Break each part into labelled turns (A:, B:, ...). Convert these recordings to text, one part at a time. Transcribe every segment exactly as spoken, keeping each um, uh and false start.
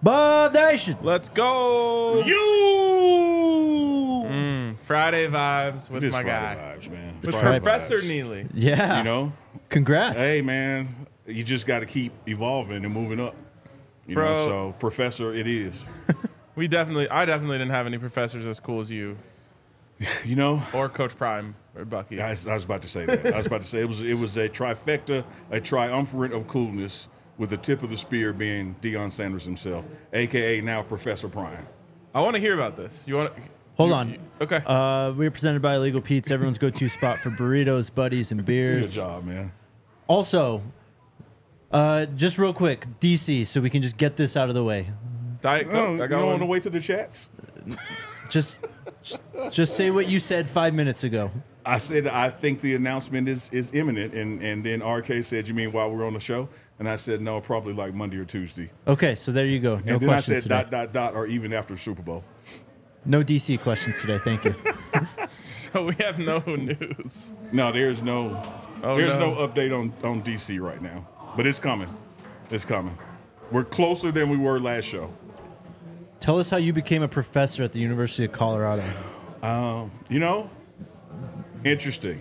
A: Bob Nation.
B: Let's go.
C: You.
B: Mm, Friday vibes with
C: It is
B: my
C: Friday
B: guy.
C: vibes, man.
B: With
C: Friday
B: Professor
C: vibes.
B: Neely.
A: Yeah.
C: You know,
A: Congrats.
C: hey man, you just got to keep evolving and moving up. You
B: Bro.
C: know, so Professor, it is.
B: We definitely, I definitely didn't have any professors as cool as you
C: You know,
B: or Coach Prime or Bucky.
C: I was, I was about to say that. I was about to say it was it was a trifecta, a triumvirate of coolness, with the tip of the spear being Deion Sanders himself, a k a now Professor Prime.
B: I want to hear about this. You want?
A: Hold
B: you-
A: on.
B: you- okay.
A: Uh, we're presented by Illegal Pete's, everyone's go-to spot for burritos, buddies, and
C: Good
A: beers.
C: job, man.
A: Also, uh, just real quick, D C, so we can just get this out of the way.
B: Diet
C: Oh,
B: Coke.
C: you
B: I got
C: don't
B: one.
C: want to wait to the chats?
A: Just, just, just say what you said five minutes ago.
C: I said I think the announcement is is imminent, and and then R K said, "You mean while we're on the show?" And I said, "No, probably like Monday or Tuesday."
A: Okay, so there you go. No
C: and then I
A: questions
C: said,
A: today.
C: "Dot dot dot," or even after Super Bowl.
A: No D C questions today. Thank you.
B: So we have no news.
C: No, there's no
B: Oh,
C: there's
B: no.
C: no update on on D C right now, but it's coming. It's coming. We're closer than we were last show.
A: Tell us how you became a professor at the University of Colorado.
C: Um, you know, interesting.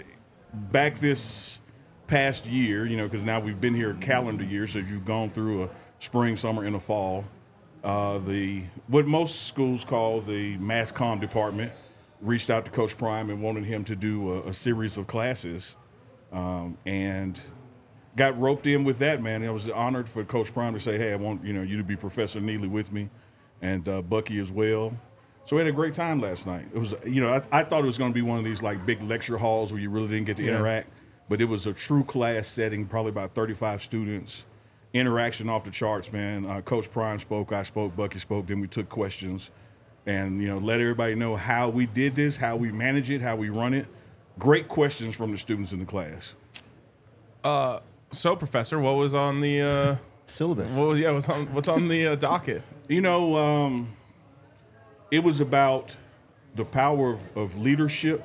C: Back this past year, you know, because now we've been here a calendar year, so you've gone through a spring, summer, and a fall. Uh, the what most schools call the mass comm department reached out to Coach Prime and wanted him to do a, a series of classes, um, and got roped in with that. Man, I was honored for Coach Prime to say, "Hey, I want you know you to be Professor Neely with me, and uh, Bucky as well." So we had a great time last night. It was, you know, I, I thought it was going to be one of these like big lecture halls where you really didn't get to
B: Yeah.
C: interact, but it was a true class setting, probably about thirty-five students. Interaction off the charts, man. Uh, Coach Prime spoke, I spoke, Bucky spoke, then we took questions and, you know, let everybody know how we did this, how we manage it, how we run it. Great questions from the students in the class.
B: Uh, so Professor, what was on the? Uh,
A: Syllabus.
B: what was, yeah, what's on what's on the uh, docket?
C: You know, um, it was about the power of, of leadership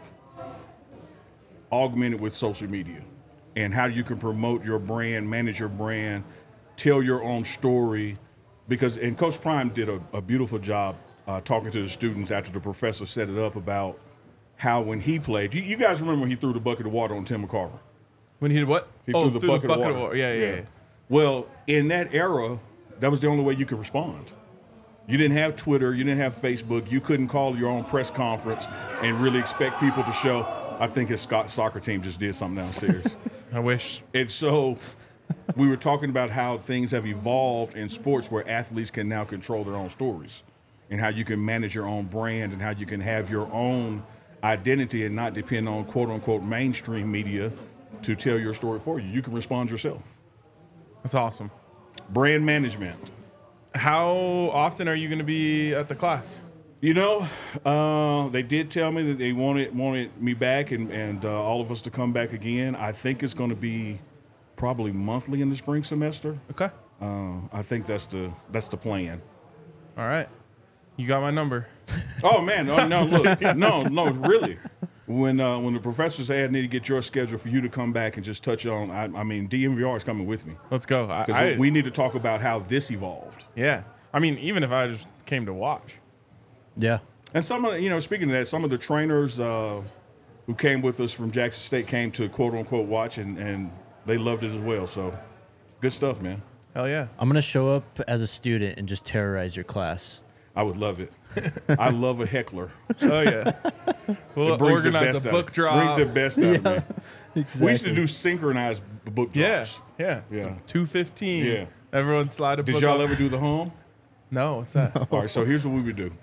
C: augmented with social media and how you can promote your brand, manage your brand, tell your own story. Because, and Coach Prime did a, a beautiful job uh, talking to the students after the professor set it up about how when he played, you, you guys remember when he threw the bucket of water on Tim McCarver?
B: When he did what?
C: He
B: oh,
C: threw the bucket, of, water.
B: Yeah, yeah, yeah.
C: Well, in that era, that was the only way you could respond. You didn't have Twitter. You didn't have Facebook. You couldn't call your own press conference and really expect people to show. I think his Scott soccer team just did something downstairs.
B: I wish.
C: And so we were talking about how things have evolved in sports where athletes can now control their own stories and how you can manage your own brand and how you can have your own identity and not depend on quote-unquote mainstream media to tell your story for you. You can respond yourself.
B: That's awesome.
C: Brand management.
B: How often are you going to be at the class?
C: You know, uh, they did tell me that they wanted wanted me back and, and uh, all of us to come back again. I think it's going to be probably monthly in the spring semester.
B: Okay.
C: Uh, I think that's the that's the plan.
B: All right. You got my number.
C: Oh man, no, no, look, no, no, really. When uh, when the professors said I need to get your schedule for you to come back and just touch on, I, I mean, D M V R is coming with me
B: Let's go. I,
C: because
B: I,
C: we need to talk about how this evolved.
B: yeah. I mean, even if I just came to watch.
A: Yeah.
C: And some of the, you know, speaking of that, some of the trainers uh, who came with us from Jackson State came to quote unquote watch and, and they loved it as well. So good stuff, man.
B: Hell yeah.
A: I'm going to show up as a student and just terrorize your class.
C: I would love it. I love a heckler.
B: Oh yeah. We'll
C: It brings the
B: organize
C: best
B: a
C: out-
B: book drop.
C: Brings the best out of me.
A: Exactly.
C: We used to do synchronized b- book
B: yeah.
C: drops.
B: Yeah.
C: Yeah.
B: two fifteen.
C: Yeah.
B: Everyone slide a
C: Did
B: book
C: y'all
B: up.
C: ever do the hum?
B: No, what's that?
C: All right, so here's what we would do.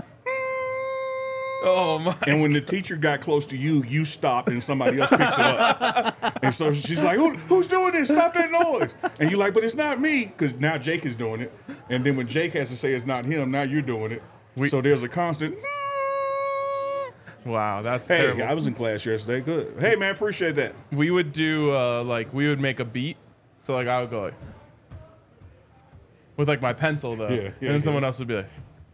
B: Oh my.
C: And when the teacher got close to you, you stop and somebody else picks it up. And so she's like, Who, who's doing this? Stop that noise. And you're like, but it's not me, because now Jake is doing it. And then when Jake has to say it's not him, now you're doing it.
B: We-
C: so there's a constant,
B: Wow, that's
C: hey,
B: terrible.
C: I was in class yesterday. Good. Hey, man, appreciate that.
B: we would do uh, like we would make a beat. So like I would go like with like my pencil though,
C: Yeah, yeah,
B: and then
C: yeah.
B: someone else would be like,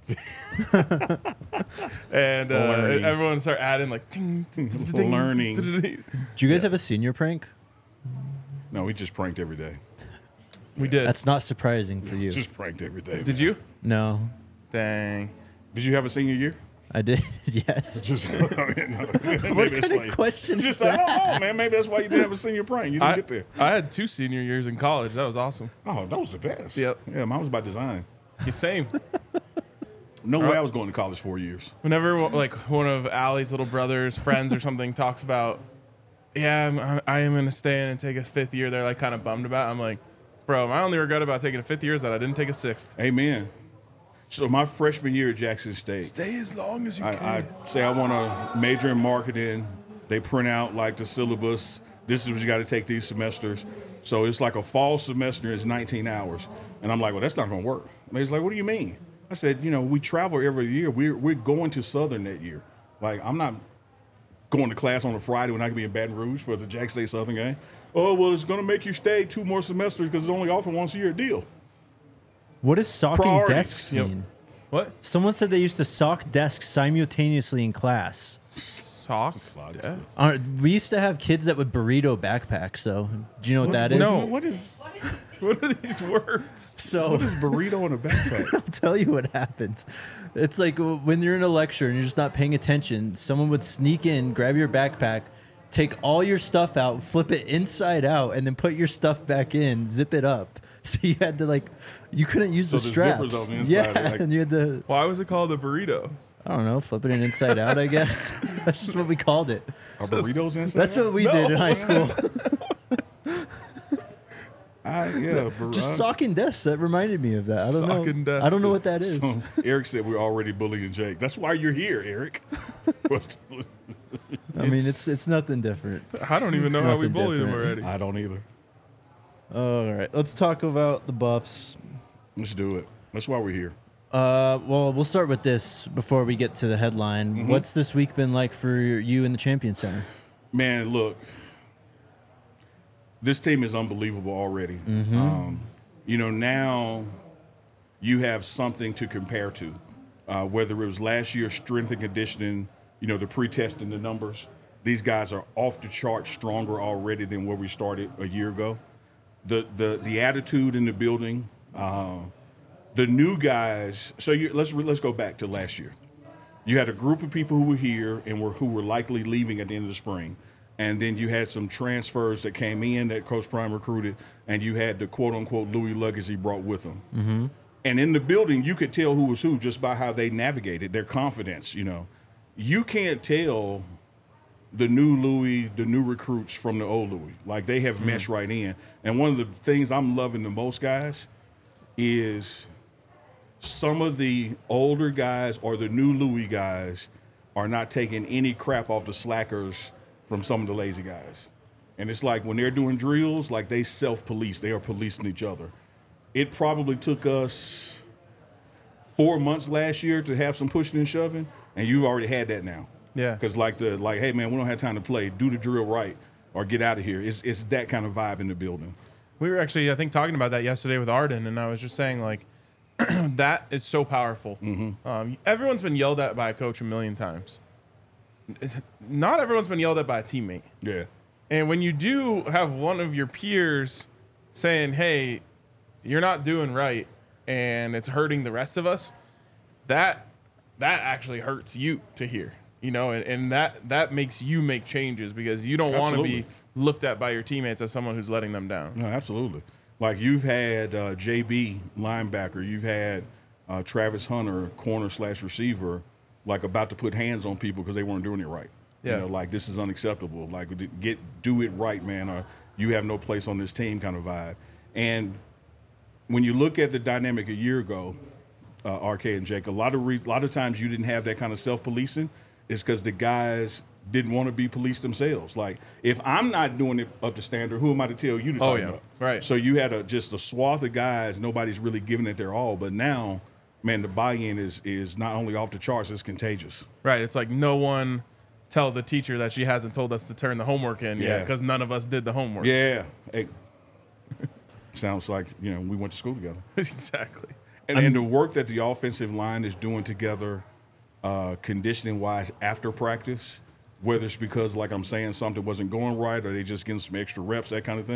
B: and uh,
C: Learning.
B: everyone would start adding like ting, ting, ting, ting,
C: Learning.
B: ting, ting.
A: Do you guys have a senior prank?
C: No, we just pranked every day.
B: We did.
A: That's not surprising for you.
C: Just pranked every day.
B: Did
C: man.
B: you?
A: No,
B: Dang.
C: Did you have a senior year?
A: I did. Yes.
C: Just, I mean, no, maybe
A: What
C: that's
A: kind
C: why
A: of
C: you-
A: question is
C: Just I
A: that?
C: don't know, man. Maybe that's why you didn't have a senior prank. You didn't
B: I,
C: get there.
B: I had two senior years in college. That was awesome.
C: Oh, that was the best.
B: Yep.
C: Yeah, mine was by design.
B: The same.
C: No way I was going to college four years.
B: Whenever like one of Allie's little brothers, friends, or something talks about, yeah, I'm, I am going to stay in and take a fifth year, they're like kind of bummed about it. I'm like, bro, my only regret about taking a fifth year is that I didn't take a sixth.
C: Amen. So my freshman year at Jackson State,
B: Stay as long as you
C: I, I say I want to major in marketing. They print out like the syllabus. This is what you got to take these semesters. So it's like a fall semester is nineteen hours. And I'm like, well, that's not going to work. And he's like, what do you mean? I said, you know, we travel every year. We're, we're going to Southern that year. Like, I'm not going to class on a Friday when I can be in Baton Rouge for the Jackson State Southern game. Oh, well, it's going to make you stay two more semesters because it's only offered once a year deal.
A: What does socking
C: Priorities.
A: desks
B: Yep.
A: mean?
B: What?
A: Someone said they used to sock desks simultaneously in class.
B: Sock? Yeah.
A: Uh, we used to have kids that would burrito backpacks. So, do you know what, that is?
B: No.
C: What is,
B: What are these words?
A: So,
C: what is burrito in a backpack?
A: I'll tell you what happens. It's like when you're in a lecture and you're just not paying attention, someone would sneak in, grab your backpack, take all your stuff out, flip it inside out, and then put your stuff back in, zip it up. So you had to like, you couldn't use
C: So
A: the
C: the
A: straps.
C: zipper's on the inside,
A: yeah,
C: like-
A: and you had to,
B: Why was it called a burrito?
A: I don't know, flipping it inside out, I guess. That's just what we called it.
C: Are burritos inside?
A: That's what we did in high school.
C: I, yeah, bur-
A: Just
C: uh,
A: socking desks. That reminded me of that. I don't
B: Socking
A: know.
B: desks.
A: I don't know what that is.
C: So Eric said we're already bullying Jake. That's why you're here, Eric.
A: I mean, it's it's nothing different.
B: I don't even
A: It's
B: know how we
A: nothing
B: bullied him
A: different.
B: already.
C: I don't either.
A: All right, let's talk about the Buffs.
C: Let's do it. That's why we're here.
A: Uh, well, we'll start with this before we get to the headline.
C: Mm-hmm.
A: What's this week been like for you in the Champion Center?
C: Man, look, this team is unbelievable already. Um, you know, now you have something to compare to. Uh, whether it was last year's strength and conditioning, you know, the pre-testing the numbers. These guys are off the chart stronger already than where we started a year ago. The the the attitude in the building, uh, the new guys. So you, let's let's go back to last year. You had a group of people who were here and were who were likely leaving at the end of the spring, and then you had some transfers that came in that Coach Prime recruited, and you had the quote unquote Louis luggage he brought with him. Mm-hmm. And in the building, you could tell who was who just by how they navigated their confidence. You know, you can't tell the new Louis, the new recruits from the old Louis. Like, they have meshed right in. And one of the things I'm loving the most, guys, is some of the older guys or the new Louis guys are not taking any crap off the slackers from some of the lazy guys. And it's like when they're doing drills, like they self-police. They are policing each other. It probably took us four months last year to have some pushing and shoving, and you've already had that now.
B: Yeah.
C: Because like the like, hey man, we don't have time to play. Do the drill right or get out of here. It's it's that kind of vibe in the building.
B: We were actually, I think, talking about that yesterday with Arden, and I was just saying, like, that is so powerful.
C: Mm-hmm.
B: Um, everyone's been yelled at by a coach a million times. Not everyone's been yelled at by a teammate.
C: Yeah.
B: And when you do have one of your peers saying, hey, you're not doing right, and it's hurting the rest of us, that that actually hurts you to hear. You know, and, and that, that makes you make changes because you don't want to
C: Absolutely.
B: be looked at by your teammates as someone who's letting them down.
C: No, absolutely. Like you've had uh, J B linebacker, you've had uh, Travis Hunter corner slash receiver, like about to put hands on people because they weren't doing it right.
B: Yeah.
C: You know, like this is unacceptable. Like get do it right, man, or you have no place on this team kind of vibe. And when you look at the dynamic a year ago, uh, R K and Jake, a lot of re- a lot of times you didn't have that kind of self policing. Is because the guys didn't want to be policed themselves. Like, if I'm not doing it up to standard, who am I to tell you to
B: Oh,
C: tighten
B: yeah.
C: up?
B: Right.
C: So you had a just a swath of guys. Nobody's really giving it their all. But now, man, the buy-in is is not only off the charts; it's contagious.
B: Right. It's like no one tell the teacher that she hasn't told us to turn the homework in yet
C: Yeah.
B: because none of us did the homework.
C: Yeah. Hey, sounds like you know we went to school together.
B: Exactly.
C: And, and the work that the offensive line is doing together, uh, conditioning wise, after practice, whether it's because, like I'm saying, something wasn't going right or they just getting some extra reps, that kind of thing,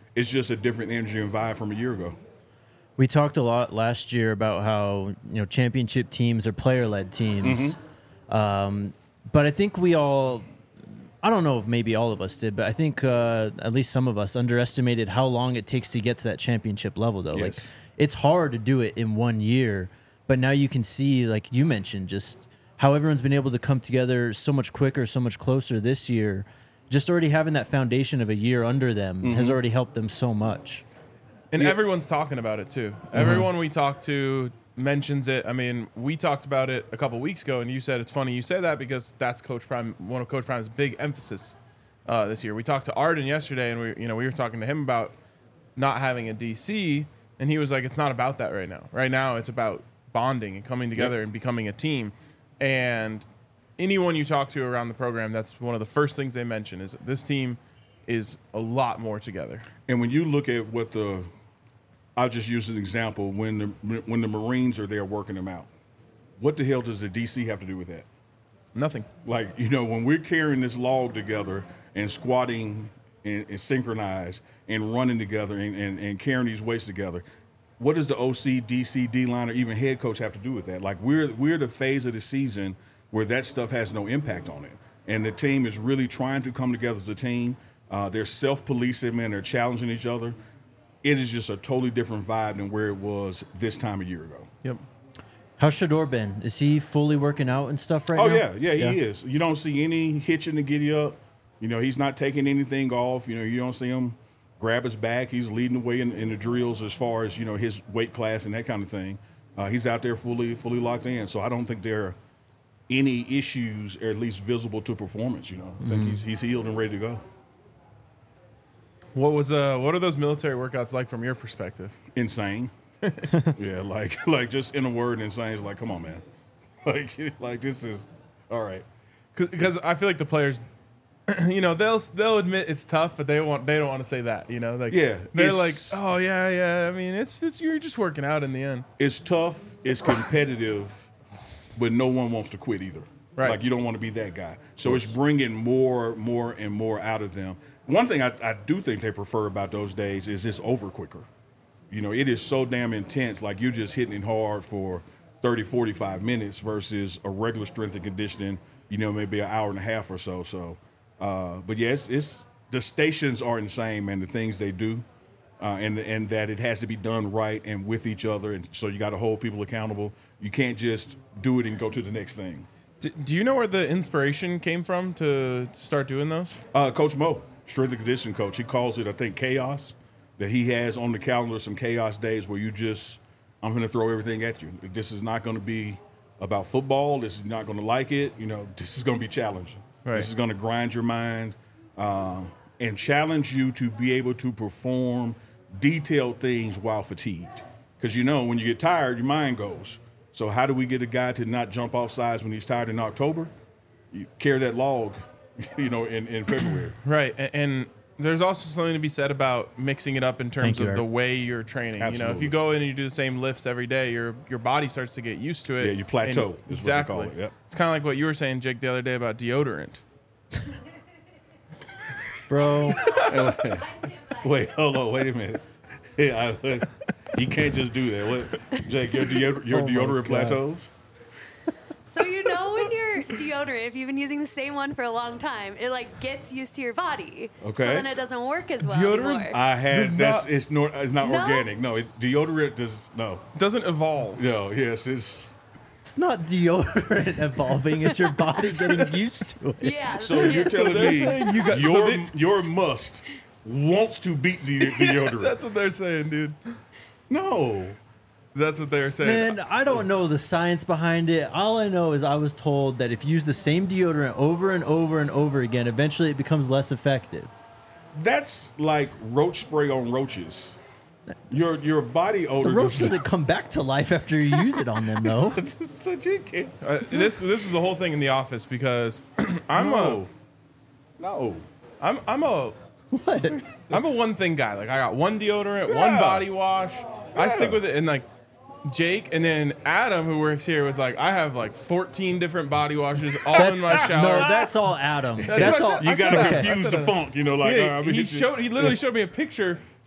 C: it's just a different energy and vibe from a year ago.
A: We talked a lot last year about how, you know, championship teams are player-led teams.
C: Mm-hmm.
A: Um, but I think we all, I don't know if maybe all of us did, but I think uh, at least some of us underestimated how long it takes to get to that championship level, though.
C: Yes.
A: Like, it's hard to do it in one year, but now you can see, like you mentioned, just how everyone's been able to come together so much quicker, so much closer this year. Just already having that foundation of a year under them
C: Mm-hmm.
A: has already helped them so much.
B: And
C: Yeah.
B: everyone's talking about it too. Everyone we talk to mentions it. I mean, we talked about it a couple weeks ago, and you said it's funny you say that because that's Coach Prime, one of Coach Prime's big emphasis uh, this year. We talked to Arden yesterday, and we, you know, we were talking to him about not having a D C, and he was like, "It's not about that right now. Right now, it's about bonding and coming together
C: Yep.
B: and becoming a team." And anyone you talk to around the program, that's one of the first things they mention is this team is a lot more together.
C: And when you look at what the, I'll just use an example, when the when the Marines are there working them out, what the hell does the D C have to do with that?
B: Nothing.
C: Like, you know, when we're carrying this log together and squatting and, and synchronized and running together and, and, and carrying these weights together, what does the O C, D C, D-line, or even head coach have to do with that? Like, we're we're the phase of the season where that stuff has no impact on it. And the team is really trying to come together as a team. Uh, they're self-policing, man. They're challenging each other. It is just a totally different vibe than where it was this time a year ago.
B: Yep.
A: How's Shador been? Is he fully working out and stuff right
C: Oh,
A: now?
C: yeah. Yeah, he is. You don't see any hitching to giddy up. You know, he's not taking anything off. You know, you don't see him grab his back. He's leading the way in, in the drills as far as, you know, his weight class and that kind of thing. Uh, he's out there fully fully locked in. So I don't think there are any issues, or at least visible to performance, you know. I think
A: Mm-hmm.
C: he's, he's healed and ready to go.
B: What was uh what are those military workouts like from your perspective?
C: Insane. yeah, like like just in a word, insane. It's like, come on, man. Like, like this is all right.
B: Because I feel like the players, you know, they'll they'll admit it's tough, but they want they don't want to say that, you know, like
C: Yeah,
B: they're like,
C: it's-
B: oh yeah, yeah. I mean, it's it's you're just working out in the end.
C: It's tough, it's competitive, but no one wants to quit either.
B: Right.
C: Like, you don't want to be that guy. So it's bringing more, more, and more out of them. One thing I, I do think they prefer about those days is it's over quicker. You know, it is so damn intense. Like, you're just hitting it hard for thirty, forty-five minutes versus a regular strength and conditioning, you know, maybe an hour and a half or so. So, uh, but yeah, it's, it's the stations are insane, man, the things they do. Uh, and and that it has to be done right and with each other, and so you got to hold people accountable. You can't just do it and go to the next thing.
B: D- do you know where the inspiration came from to start doing those?
C: Uh, Coach Mo, strength and conditioning coach, he calls it, I think, chaos. That he has on the calendar some chaos days where you just, I'm going to throw everything at you. This is not going to be about football. This is not going to like it. You know, this is going to be challenging.
B: Right.
C: This is going to grind your mind uh, and challenge you to be able to perform detailed things while fatigued. Because, you know, when you get tired, your mind goes. So how do we get a guy to not jump off sides when he's tired in October? You carry that log, you know, in, in February.
B: Right, and, and there's also something to be said about mixing it up in terms
A: Thank you,
B: of
A: Eric.
B: the way you're training. You know, if
C: Absolutely.
B: you go in and you do the same lifts every day, your your body starts to get used to it.
C: Yeah, you plateau
B: And-
C: is what they
B: exactly.
C: call it, yep.
B: It's kind of like what you were saying, Jake, the other day about deodorant.
A: Bro.
C: Wait, hold on, wait a minute. Yeah, I, you can't just do that. What, Jake? Your, deodor- your
A: Oh my
C: deodorant
A: God.
C: plateaus?
D: So you know when your deodorant, if you've been using the same one for a long time, it like gets used to your body.
C: Okay.
D: So then it doesn't work as well
B: Deodorant?
D: anymore.
C: I had
B: Does
C: that's
B: not-
C: it's not it's not
D: No?
C: organic. No, it, deodorant does no.
B: It doesn't evolve.
C: No, yes, it's
A: It's not deodorant evolving. It's your body getting used to it.
D: yeah.
C: so
D: yeah.
C: you're telling
B: they're
C: me
B: saying you got- so
C: your
B: they-
C: your must wants to beat the deodorant.
B: That's what they're saying, dude.
C: No.
B: That's what they're saying.
A: Man, I don't know the science behind it. All I know is I was told that if you use the same deodorant over and over and over again, eventually it becomes less effective.
C: That's like roach spray on roaches. Your your body odor
A: The roach
C: does
A: doesn't come back to life after you use it on them, though.
C: It's legit, kid.
B: Uh, this this is the whole thing in the office because I'm
C: No. No.
B: a I'm I'm a
A: What?
B: I'm a one thing guy. Like I got one deodorant, one
C: Yeah.
B: body wash. I stick
C: Yeah.
B: with it, and like Jake and then Adam, who works here, was like, I have like fourteen different body washes all
A: That's,
B: in my shower.
A: no, that's all Adam. That's,
B: what I
A: all.
B: said.
C: You
B: I
C: gotta
B: said that.
C: confuse
B: I said
C: the
B: that.
C: funk, you know, like
B: yeah,
C: uh, I mean,
B: he
C: it's-
B: showed. He literally showed me a picture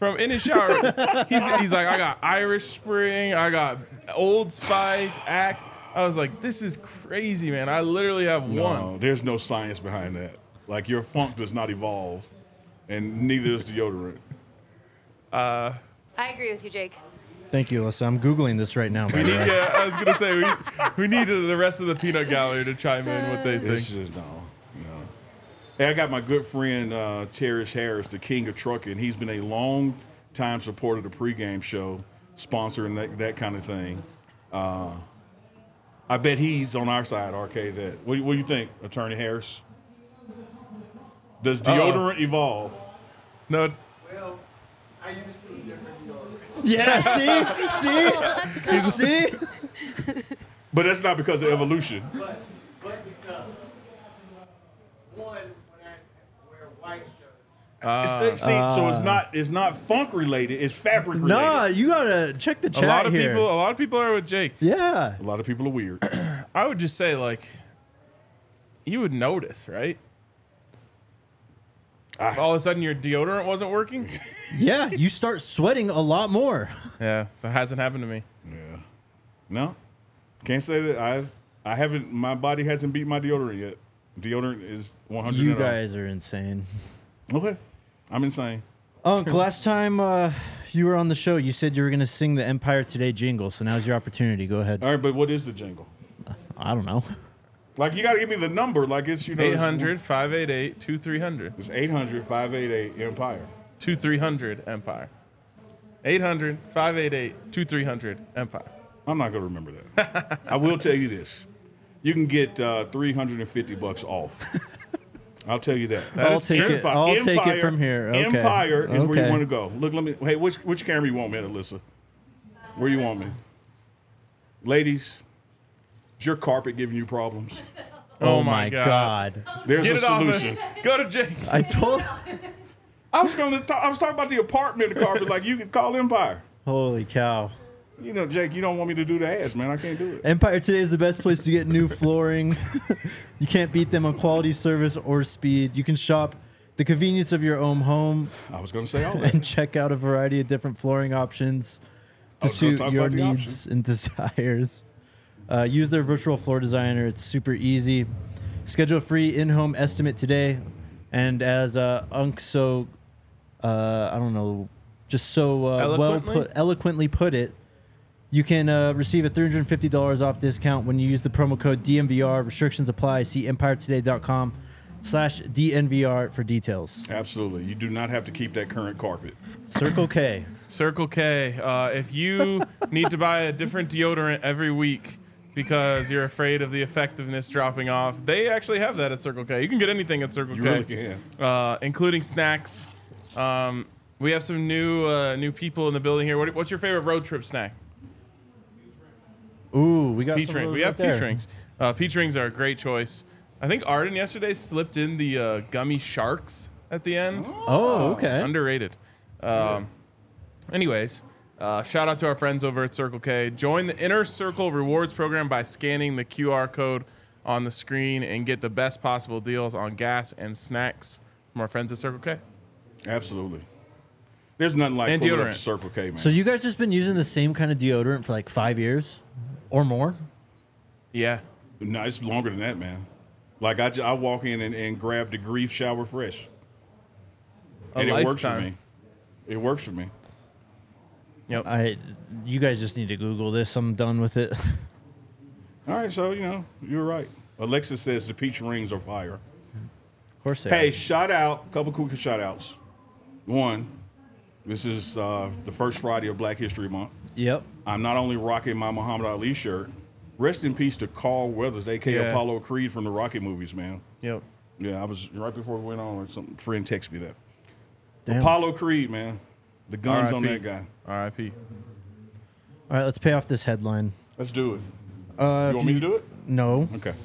B: from in his shower. he's, he's like, I got Irish Spring, I got Old Spice, Axe. I was like, this is crazy, man. I literally have
C: No,
B: one.
C: there's no science behind that. Like your funk does not evolve, and neither does deodorant.
B: Uh,
D: I agree with you, Jake.
A: Thank you, Alyssa. I'm Googling this right now. By
B: we
A: the
B: need,
A: way.
B: yeah, I was gonna say we we need the rest of the peanut gallery to chime in what they
C: It's
B: think.
C: just no, no. Hey, I got my good friend uh, Terrence Harris, the king of trucking. He's been a long time supporter of the pregame show, sponsoring that, that kind of thing. Uh, I bet he's on our side, R K. That what, what do you think, Attorney Harris? Does deodorant evolve?
B: No,
E: Well, I used two different deodorants.
A: Yeah, see, see, see.
C: But that's not because of evolution.
E: But, but because, one, when I wear white shirts,
C: It's- see, so it's not it's not funk related. It's fabric related.
A: Nah, you gotta check the
B: a
A: chat
B: lot of
A: here.
B: people, a lot of people are with Jake.
A: Yeah.
C: A lot of people are weird.
B: I would just say like, you would notice, right?
C: Ah.
B: If all of a sudden your deodorant wasn't working.
A: Yeah, you start sweating a lot more.
B: Yeah, that hasn't happened to me.
C: Yeah. No, can't say that I've I haven't. My body hasn't beat my deodorant yet. Deodorant is one hundred.
A: You guys are insane.
C: Okay, I'm insane.
A: Unc, last time uh, you were on the show, you said you were gonna sing the Empire Today jingle. So now's your opportunity. Go ahead.
C: All right, but what is the jingle?
A: I don't know.
C: Like you got to give me the number. Like it's you know
B: eight hundred, five eight eight, two three hundred.
C: It's eight hundred, five eight eight Empire.
B: two three hundred Empire. eight hundred, five eight eight, two three hundred Empire.
C: I'm not gonna remember that. I will tell you this: you can get uh, three hundred fifty bucks off. I'll tell you that.
B: That
A: I'll
B: is
A: take
B: true.
A: it. I'll take it from here. Okay.
C: Empire is where you
A: Okay.
C: want to go. Look, let me. Hey, which which camera you want me at, Alyssa? Where you want me? Ladies, is your carpet giving you problems?
B: Oh,
A: Oh
B: my
A: my
B: God.
A: God.
C: There's
B: Get
C: a
B: it off
C: solution.
B: it. Go to Jake.
A: I told.
C: I was going to. Talk, I was talking about the apartment carpet. Like you can call Empire.
A: Holy cow.
C: You know, Jake, you don't want me to do the ads, man. I can't do it.
A: Empire Today is the best place to get new flooring. You can't beat them on quality, service, or speed. You can shop the convenience of your own home
C: I was going to say all that.
A: and check out a variety of different flooring options
C: I
A: to
C: was gonna
A: suit
C: talk
A: your
C: about the
A: needs and desires. Uh, use their virtual floor designer. It's super easy. Schedule a free in-home estimate today. And as uh, Unc so, uh, I don't know, just so uh, well
B: Eloquently?
A: put, eloquently put it, you can uh, receive a three hundred fifty dollars off discount when you use the promo code D N V R. Restrictions apply. See empire today dot com slash D N V R for details.
C: Absolutely. You do not have to keep that current carpet.
A: Circle K.
B: Circle K. Uh, if you need to buy a different deodorant every week because you're afraid of the effectiveness dropping off, they actually have that at Circle K. You can get anything at Circle
C: You
B: K,
C: really can.
B: Uh, including snacks. Um, we have some new uh, new people in the building here. What, what's your favorite road trip snack?
A: Ooh, we got
B: Peach
A: some of
B: rings.
A: those
B: We
A: right
B: have
A: there.
B: peach rings. Uh, peach rings are a great choice. I think Arden yesterday slipped in the uh, gummy sharks at the end.
A: Oh, okay.
B: Underrated. Um, anyways, uh, shout out to our friends over at Circle K. Join the Inner Circle Rewards program by scanning the Q R code on the screen and get the best possible deals on gas and snacks from our friends at Circle K.
C: Absolutely. There's nothing like
B: And
C: pulling up
B: deodorant.
C: to Circle K, man.
A: So you guys just been using the same kind of deodorant for like five years or more?
B: Yeah.
C: No, it's longer than that, man. Like I, ju- I walk in and, and grab the Grief Shower Fresh,
B: A
C: and it works for
B: lifetime.
C: me. It works for me.
B: Yep.
A: I, you guys just need to Google this. I'm done with it. Of
C: All right, so you know you're right. Alexa says the peach rings are fire.
A: course they
C: Hey,
A: are.
C: shout out, couple quick shout outs. One, this is uh, the first Friday of Black History Month.
A: Yep.
C: I'm not only rocking my Muhammad Ali shirt. Rest in peace to Carl Weathers, a k a.
B: Yeah.
C: Apollo Creed from the Rocky movies, man.
B: Yep.
C: Yeah, I was right before we went on. Some friend texted me that.
A: Damn.
C: Apollo Creed, man. The guns on
B: R I P.
C: that guy.
B: R I P
A: All right, let's pay off this headline.
C: Let's do it.
A: Uh,
C: You
A: if
C: want me to do it?
A: No.
C: Okay.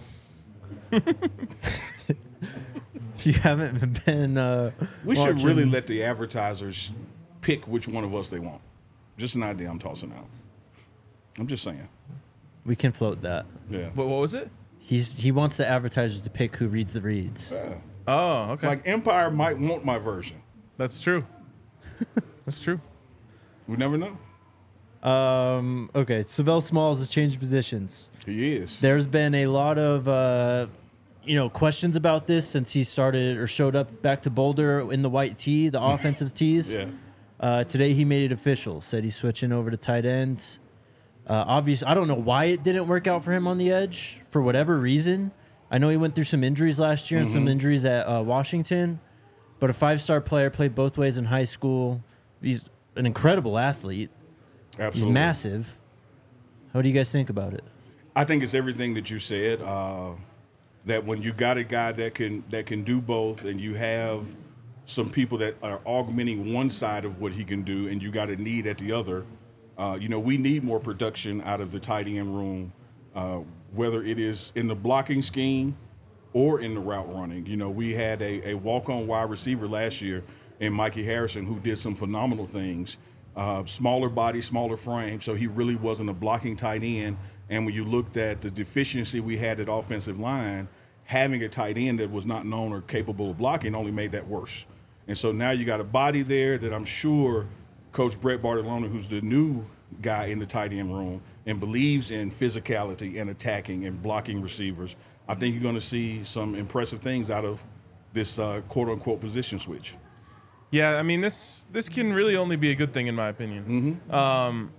A: If you haven't been, uh,
C: We should
A: watching-
C: really let the advertisers pick which one of us they want. Just an idea I'm tossing out. I'm just saying.
A: We can float that.
C: Yeah.
B: What, what was it?
A: He's he wants the advertisers to pick who reads the reads.
C: Yeah.
B: Oh, okay.
C: Like Empire might want my version.
B: That's true. That's true.
C: We never know.
A: Um, okay, Savell Smalls has changed positions.
C: He is.
A: There's been a lot of uh, you know questions about this since he started or showed up back to Boulder in the white tee, the offensive tees.
C: Yeah.
A: Uh, today he made it official. Said he's switching over to tight ends. Uh, obviously, I don't know why it didn't work out for him on the edge for whatever reason. I know he went through some injuries last year and some injuries at uh, Washington, but a five-star player, played both ways in high school. He's an incredible athlete.
C: Absolutely.
A: He's massive. What do you guys think about it?
C: I think it's everything that you said. Uh, that when you got a guy that can that can do both, and you have some people that are augmenting one side of what he can do, and you got a need at the other. Uh, you know, we need more production out of the tight end room, uh, whether it is in the blocking scheme or in the route running. You know, we had a, a walk-on wide receiver last year in Mikey Harrison who did some phenomenal things. Uh, smaller body, smaller frame, so he really wasn't a blocking tight end. And when you looked at the deficiency we had at offensive line, having a tight end that was not known or capable of blocking only made that worse. And so now you got a body there that I'm sure Coach Brett Bartolone, who's the new guy in the tight end room and believes in physicality and attacking and blocking receivers, I think you're going to see some impressive things out of this uh, quote-unquote position switch.
B: Yeah, I mean this this can really only be a good thing in my opinion.
C: Mm-hmm.
B: Um,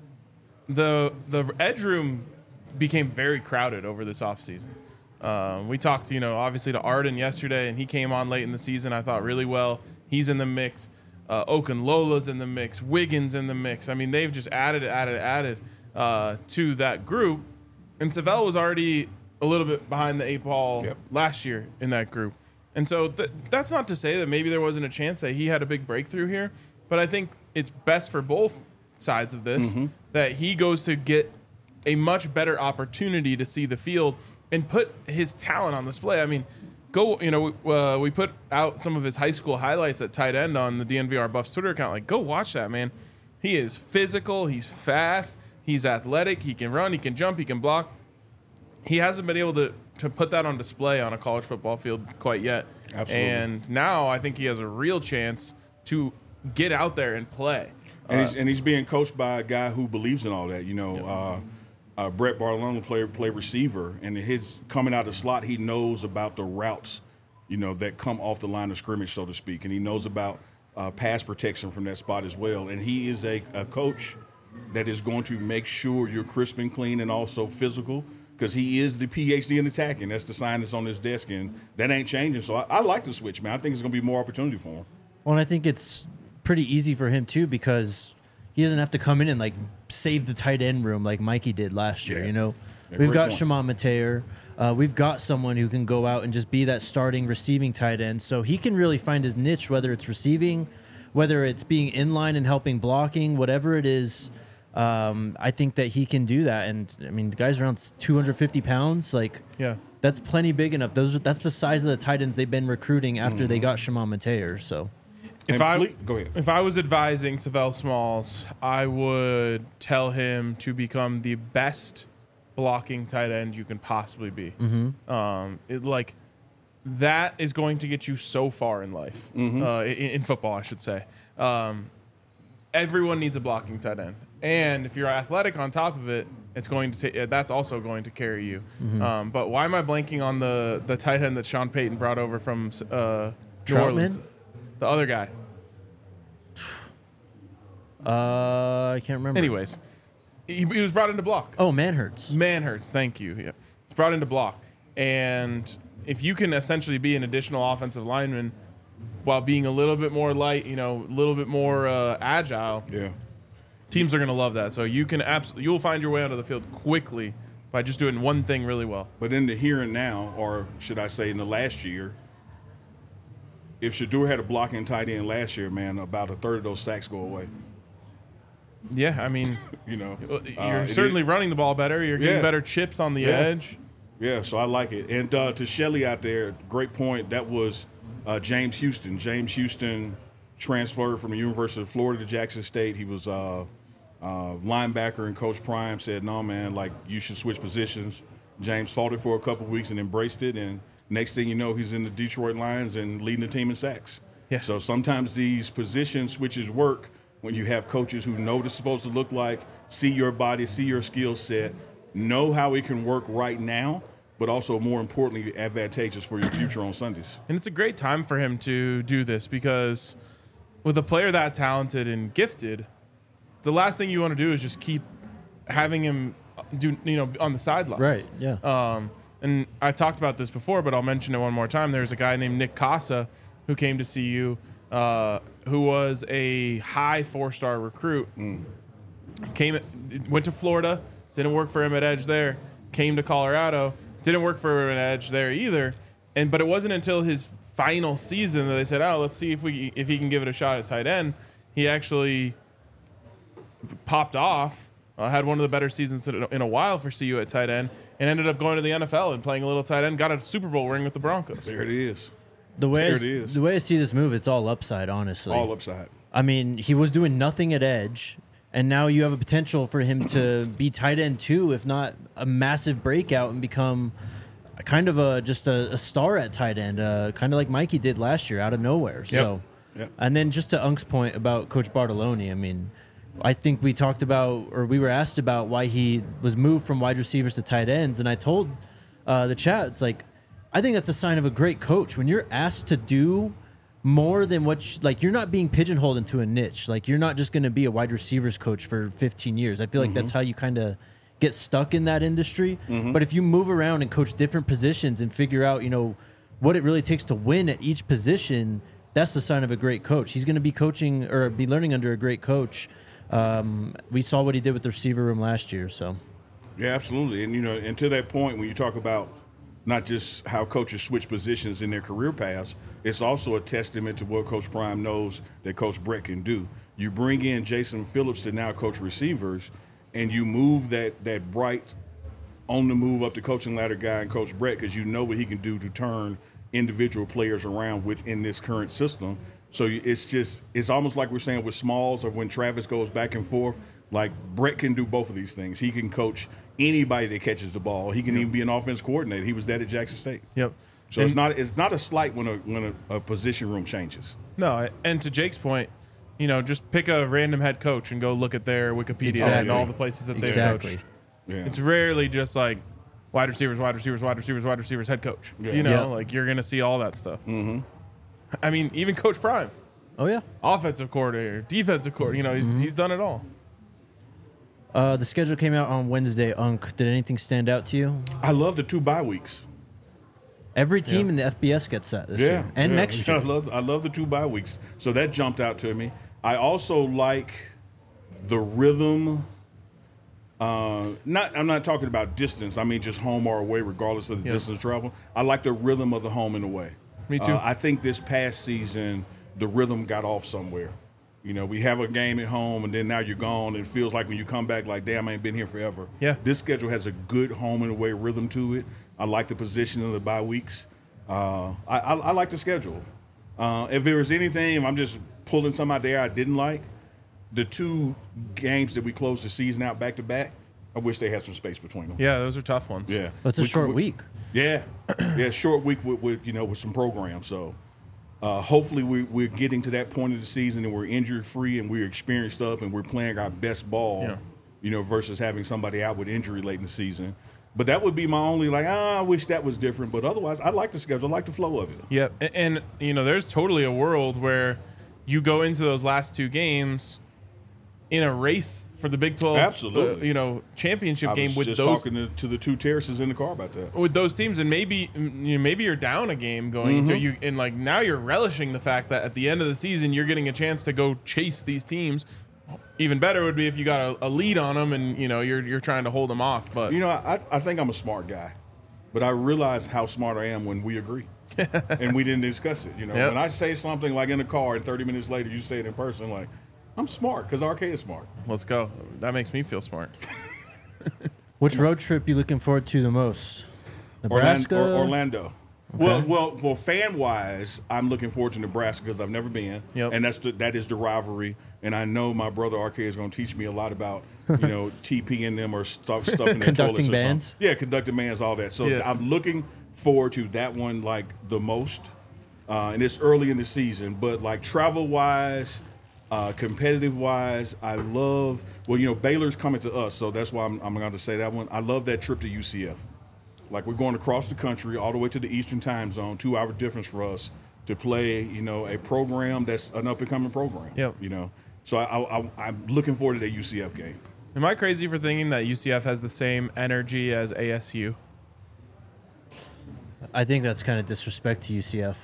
B: the the edge room became very crowded over this offseason. Um, we talked, you know, obviously to Arden yesterday, and he came on late in the season. I thought really well. He's in the mix. Uh, Okunlola's in the mix. Wiggins in the mix. I mean, they've just added, added, added uh, to that group. And Savell was already a little bit behind the eight ball
C: Yep.
B: last year in that group. And so th- that's not to say that maybe there wasn't a chance that he had a big breakthrough here, but I think it's best for both sides of this
C: Mm-hmm.
B: that he goes to get a much better opportunity to see the field and put his talent on display. I mean, go, you know, uh, we put out some of his high school highlights at tight end on the D N V R Buffs Twitter account. Like, go watch that, man. He is physical. He's fast. He's athletic. He can run. He can jump. He can block. He hasn't been able to, to put that on display on a college football field quite yet.
C: Absolutely.
B: And now I think he has a real chance to get out there and play.
C: And,
B: Uh,
C: he's, and he's being coached by a guy who believes in all that. You know, uh, uh, Brett Bartolone play play receiver, and his coming out of the slot, he knows about the routes, you know, that come off the line of scrimmage, so to speak, and he knows about uh, pass protection from that spot as well. And he is a, a coach that is going to make sure you're crisp and clean and also physical, because he is the P H D in attacking. That's the sign that's on his desk, and that ain't changing. So I, I like the switch, man. I think it's going to be more opportunity for him.
A: Well, and I think it's pretty easy for him too because he doesn't have to come in and like save the tight end room like Mikey did last year.
C: Yeah.
A: You know,
C: Yeah,
A: we've
C: great
A: got
C: point.
A: Shimon Mateer. Uh, we've got someone who can go out and just be that starting receiving tight end. So he can really find his niche, whether it's receiving, whether it's being in line and helping blocking, whatever it is. Um, I think that he can do that. And I mean, the guy's around two hundred fifty pounds. Like,
B: yeah.
A: that's plenty big enough. Those are, that's the size of the tight ends they've been recruiting after they got Shimon Mateer. So
B: If
C: And
B: I
C: ple- go ahead.
B: if I was advising Savell Smalls, I would tell him to become the best blocking tight end you can possibly be. Mm-hmm. Um, it, like that is going to get you so far in life,
C: Mm-hmm.
B: uh, in, in football, I should say. Um, everyone needs a blocking tight end, and if you're athletic on top of it, it's going to ta- that's also going to carry you.
A: Mm-hmm.
B: Um, but why am I blanking on the the tight end that Sean Payton brought over from uh, New
A: Troutman?
B: Orleans? The other guy.
A: uh, I can't remember.
B: Anyways, he, he was brought in to block.
A: Oh, Manhurts.
B: Manhurts, thank you. Yeah. He's brought in to block. And if you can essentially be an additional offensive lineman while being a little bit more light, you know, a little bit more uh, agile,
C: Yeah.
B: teams are going to love that. So you can absolutely, you'll find your way onto the field quickly by just doing one thing really well.
C: But in the here and now, or should I say in the last year, if Shedeur had a blocking tight end last year, man, about a third of those sacks go away.
B: Yeah, I mean,
C: You know,
B: you're
C: Uh, it
B: certainly
C: is-
B: running the ball better. You're getting
C: Yeah.
B: better chips on the
C: Yeah.
B: edge.
C: Yeah, so I like it. And uh, to Shelly out there, great point. That was uh, James Houston. James Houston transferred from the University of Florida to Jackson State. He was uh, uh, linebacker, and Coach Prime said, no, man, like, you should switch positions. James fought it for a couple weeks and embraced it, and next thing you know, he's in the Detroit Lions and leading the team in sacks.
B: Yeah.
C: So sometimes these position switches work when you have coaches who know what it's supposed to look like, see your body, see your skill set, know how it can work right now, but also more importantly, advantageous for your future on Sundays.
B: And it's a great time for him to do this because with a player that talented and gifted, the last thing you want to do is just keep having him do, you know, on the sidelines.
A: Right, yeah.
B: Um, and I talked about this before, but I'll mention it one more time. There's a guy named Nick Casa who came to see you, uh, who was a high four-star recruit. Mm. Came, went to Florida, didn't work for him at Edge there. Came to Colorado, didn't work for him at Edge there either. And but it wasn't until his final season that they said, "Oh, let's see if we if he can give it a shot at tight end." He actually popped off. Uh, had one of the better seasons in a while for C U at tight end, and ended up going to the N F L and playing a little tight end. Got a Super Bowl ring with the Broncos.
C: There it is.
A: The way
C: There
A: I,
C: it is.
A: the way I see this move, it's all upside, honestly.
C: All upside.
A: I mean, he was doing nothing at edge, and now you have a potential for him to be tight end too, if not a massive breakout and become a kind of a just a, a star at tight end, uh, kind of like Mikey did last year out of nowhere. So,
C: Yep.
A: and then just to Unk's point about Coach Bartoloni, I mean, I think we talked about, or we were asked about why he was moved from wide receivers to tight ends, and I told uh, the chat, it's like, I think that's a sign of a great coach when you're asked to do more than what, you, like, you're not being pigeonholed into a niche. Like, you're not just going to be a wide receivers coach for fifteen years. I feel like mm-hmm. that's how you kind of get stuck in that industry. Mm-hmm. But if you move around and coach different positions and figure out, you know, what it really takes to win at each position, that's the sign of a great coach. He's going to be coaching or be learning under a great coach. Um, we saw what he did with the receiver room last year. So,
C: yeah, absolutely. And, you know, and to that point, when you talk about not just how coaches switch positions in their career paths, it's also a testament to what Coach Prime knows that Coach Brett can do. You bring in Jason Phillips to now coach receivers, and you move that that bright, on the move up the coaching ladder guy and Coach Brett, because you know what he can do to turn individual players around within this current system. So it's just, it's almost like we're saying with Smalls or when Travis goes back and forth, like Brett can do both of these things. He can coach anybody that catches the ball. He can yep. even be an offense coordinator. He was that at Jackson State.
B: Yep.
C: So
B: and
C: it's not it's not a slight when a when a, a position room changes.
B: No, and to Jake's point, you know, just pick a random head coach and go look at their Wikipedia
A: exactly.
B: and all the places that
A: exactly.
B: they've coached.
C: Yeah.
B: It's rarely just like wide receivers, wide receivers, wide receivers, wide receivers, head coach.
C: Yeah.
B: You know,
A: yeah.
B: like you're going to see all that stuff.
C: Mm-hmm.
B: I mean, even Coach Prime.
A: Oh, yeah.
B: Offensive coordinator, defensive coordinator. You know, he's, mm-hmm. he's done it all.
A: Uh, the schedule came out on Wednesday. Unk, did anything stand out to you?
C: I love the two bye weeks.
A: Every team
B: yeah.
A: in the F B S gets that this
C: yeah,
A: year and
C: yeah.
A: next year.
C: I love I love the two bye weeks. So that jumped out to me. I also like the rhythm. Uh, not I'm not talking about distance. I mean just home or away, regardless of the
B: yeah.
C: distance travel. I like the rhythm of the home and away.
B: Me too.
C: Uh, I think this past season the rhythm got off somewhere. You know, we have a game at home, and then now you're gone. And it feels like when you come back, like, damn, I ain't been here forever.
B: Yeah.
C: This schedule has a good home and away rhythm to it. I like the position of the bye weeks. Uh, I, I, I like the schedule. Uh, if there was anything, if I'm just pulling some out there I didn't like, the two games that we closed the season out back to back, I wish they had some space between them.
B: Yeah, those are tough ones.
C: Yeah.
A: But it's a
C: We-
A: short
C: we-
A: week.
C: Yeah. Yeah, short week with, with, you know, with some programs. So uh, hopefully we, we're getting to that point of the season and we're injury-free and we're experienced up and we're playing our best ball,
B: Yeah.
C: you know, versus having somebody out with injury late in the season. But that would be my only, like, ah, I wish that was different. But otherwise, I like the schedule. I like the flow of it.
B: Yeah, and, and you know, there's totally a world where you go into those last two games in a race for the Big twelve,
C: Absolutely.
B: Uh, you know, championship
C: I
B: game
C: was
B: with
C: just
B: those
C: talking to, to the two terraces in the car about that.
B: with those teams, and maybe you know, maybe you're down a game going into
C: Mm-hmm.
B: you, and like now you're relishing the fact that at the end of the season you're getting a chance to go chase these teams. Even better would be if you got a, a lead on them and you know you're you're trying to hold them off. But
C: You know, I, I think I'm a smart guy, but I realize how smart I am when we agree. And we didn't discuss it. You know,
B: Yep.
C: when I say something like in the car and thirty minutes later you say it in person, like, I'm smart because R K is smart.
B: let's go. That makes me feel smart.
A: Which road trip you looking forward to the most?
C: Orlando.
A: Nebraska?
C: Or, Orlando. Well, well, well, fan wise, I'm looking forward to Nebraska because I've never been,
B: Yep.
C: and that's the, that is the rivalry. And I know my brother R K is going to teach me a lot about, you know, TPing them or stuff, stuff in their
A: Conducting
C: toilets or
A: bands?
C: something. Yeah, conducting bands, all that. So
B: Yeah.
C: I'm looking forward to that one like the most. Uh, and it's early in the season, but like travel wise, Uh, competitive wise, I love. Well, you know, Baylor's coming to us, so that's why I'm, I'm going to say that one. I love that trip to U C F. Like we're going across the country, all the way to the Eastern Time Zone, two hour difference for us to play. You know, a program that's an up and coming program.
B: Yep.
C: You know, so I, I, I'm looking forward to that U C F game.
B: Am I crazy for thinking that U C F has the same energy as A S U?
A: I think that's kind of disrespect to U C F.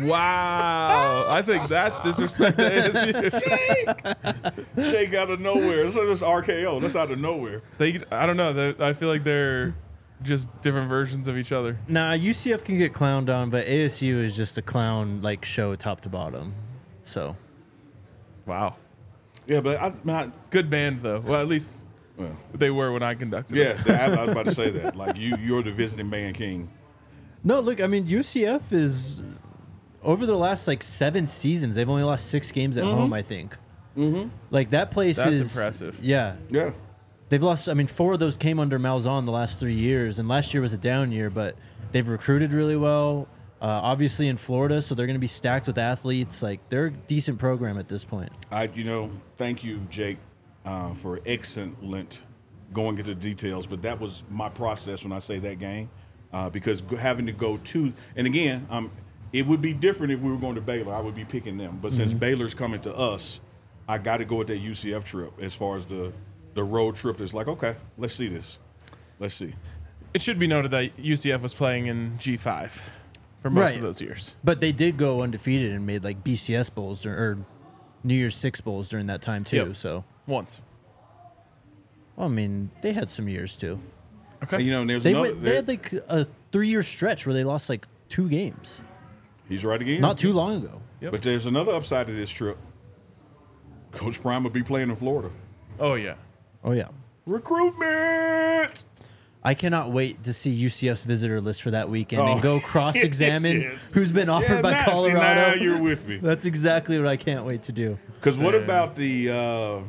B: Wow. I think that's disrespect to A S U.
C: Shake, shake out of nowhere. That's just R K O. That's out of nowhere.
B: They, I don't know. They, I feel like they're just different versions of each other.
A: Nah, U C F can get clowned on, but A S U is just a clown like show top to bottom. So,
B: Wow.
C: Yeah, but I'm not.
B: Good band, though. Well, at least
C: Well,
B: they were when I conducted
C: yeah,
B: it.
C: I, I was about to say that. Like you, you're the visiting band king.
A: no, look, I mean U C F is over the last like seven seasons, they've only lost six games at home. I think. Mm-hmm. Like that place
B: That's
A: is
B: impressive.
A: Yeah,
C: Yeah.
A: they've lost. I mean, four of those came under Malzahn the last three years, and last year was a down year. But they've recruited really well. Uh, obviously in Florida, so they're going to be stacked with athletes. Like they're a decent program at this point.
C: I, you know, thank you, Jake, uh, for excellent going into the details. But that was my process when I say that game, uh, because go- having to go to, and again, um, it would be different if we were going to Baylor. I would be picking them. But since Baylor's coming to us, I got to go with that U C F trip as far as the the road trip. That's like, okay, let's see this. Let's see.
B: It should be noted that U C F was playing in G five for most
A: Right.
B: of those years.
A: But they did go undefeated and made like B C S bowls dur- or New Year's Six bowls during that time too.
B: Yep.
A: So,
B: Once.
A: well, I mean, they had some years too.
B: Okay.
C: And, you know, and there's
A: They
C: another.
A: went, they had like a three-year stretch where they lost like two games
C: he's right again.
A: not too long ago.
B: Yep.
C: But there's another upside to this trip. Coach Prime will be playing in Florida.
B: Oh, yeah.
A: Oh yeah,
C: Recruitment.
A: I cannot wait to see U C F's visitor list for that weekend
C: Oh,
A: and go cross-examine
C: yes.
A: who's been offered
C: Yeah,
A: by
C: now, see,
A: Colorado.
C: now you're with me.
A: That's exactly what I can't wait to do.
C: Because what
B: Damn.
C: about the uh,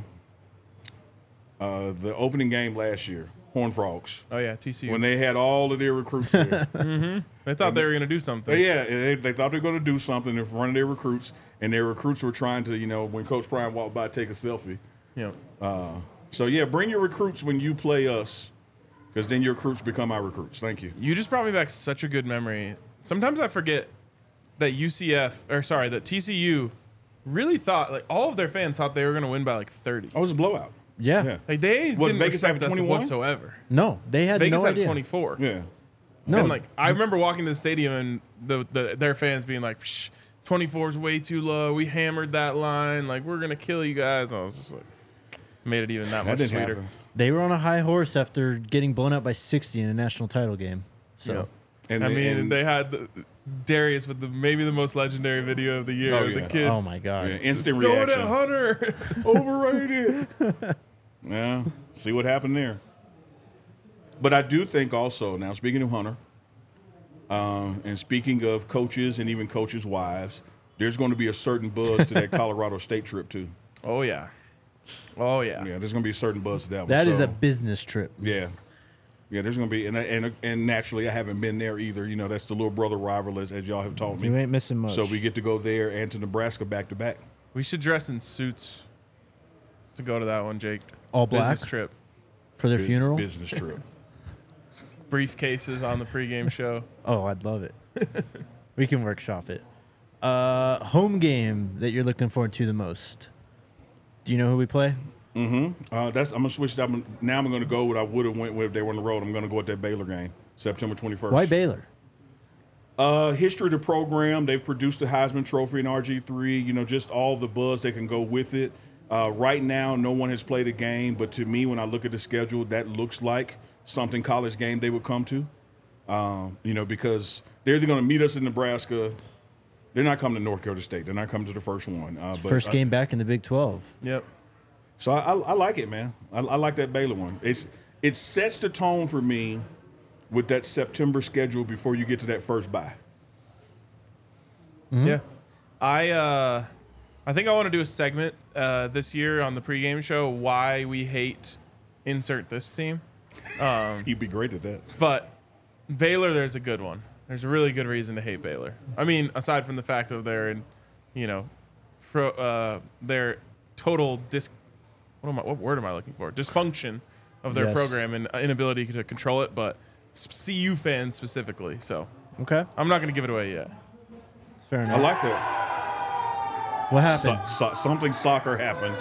C: uh, the opening game last year, Horned Frogs,
B: Oh, yeah. T C U.
C: when they had all of their recruits there?
B: They thought they were going to do something.
C: But yeah, they, they thought they were going to do something in front of their recruits, and their recruits were trying to, you know, when Coach Prime walked by, take a selfie.
B: Yeah.
C: So yeah, bring your recruits when you play us, because then your recruits become our recruits. Thank you.
B: You just brought me back such a good memory. Sometimes I forget that U C F, or sorry, that T C U really thought, like, all of their fans thought they were going to win by like thirty.
C: Oh, it was a blowout.
A: Yeah.
C: Yeah.
B: Like, they
C: What,
B: didn't
C: Vegas have
B: respect us
C: twenty-one?
B: whatsoever.
A: No, they had
B: Vegas
A: no
B: had
A: idea.
B: twenty-four.
C: Yeah.
A: No,
B: And, like, I remember walking to the stadium and the, the their fans being like, Psh, twenty-four is way too low. We hammered that line. Like, we're going to kill you guys. I was just like, made it even that,
C: That
B: much
C: didn't
B: sweeter.
C: happen.
A: they were on a high horse after getting blown out by sixty in a national title game. So.
B: Yeah.
C: And
B: I
C: they-
B: mean,
C: and-
B: they had the, Darius with the maybe the most legendary video of the year.
C: Oh,
B: The
C: yeah.
B: kid,
A: Oh my God.
C: yeah, instant
B: throw it
C: reaction.
B: at Hunter.
C: Overrated. Yeah, see what happened there. But I do think also, now speaking of Hunter, um, and speaking of coaches and even coaches' wives, there's going to be a certain buzz to that Colorado State trip too.
B: Oh yeah, oh yeah.
C: Yeah, there's going to be a certain buzz to that one.
A: That is
C: So,
A: a business trip.
C: yeah. Yeah, there's going to be, and, and and naturally, I haven't been there either. You know, that's the little brother rival, as, as y'all have taught me.
F: You ain't missing much.
C: So we get to go there and to Nebraska back to back.
B: We should dress in suits to go to that one, Jake.
A: All black
B: Business trip.
A: for their funeral.
C: Business trip.
B: Briefcases on the pregame show.
A: Oh, I'd love it. We can workshop it. Uh, home game that you're looking forward to the most. Do you know who we play?
C: Uh, that's I'm gonna switch that. I'm- Now I'm gonna go what I would have went with if they were on the road. I'm gonna go with that Baylor game, September twenty-first.
A: Why Baylor?
C: Uh, history of the program. They've produced a Heisman Trophy in R G three. You know, just all the buzz that can go with it. Uh, right now, no one has played a game, but to me, when I look at the schedule, that looks like something college game they would come to. Um, you know, because they're either going to meet us in Nebraska. They're not coming to North Dakota State. They're not coming to the first one. Uh, but,
A: First
C: uh,
A: game back in the Big twelve.
B: Yep.
C: So I, I, I like it, man. I, I like that Baylor one. It's it sets the tone for me with that September schedule before you get to that first bye.
B: Yeah. I uh, I think I want to do a segment uh, this year on the pregame show why we hate insert this team.
C: You'd be great at that.
B: But Baylor, there's a good one. There's a really good reason to hate Baylor. I mean, aside from the fact of their, you know, pro, uh, their total dis. What am I? What word am I looking for? Dysfunction of their
A: Yes.
B: program and inability to control it. But C U fans specifically. So
A: Okay.
B: I'm not going to give it away yet.
A: It's fair
C: I
A: enough.
C: like that.
A: What happened?
C: So, so, something soccer happened.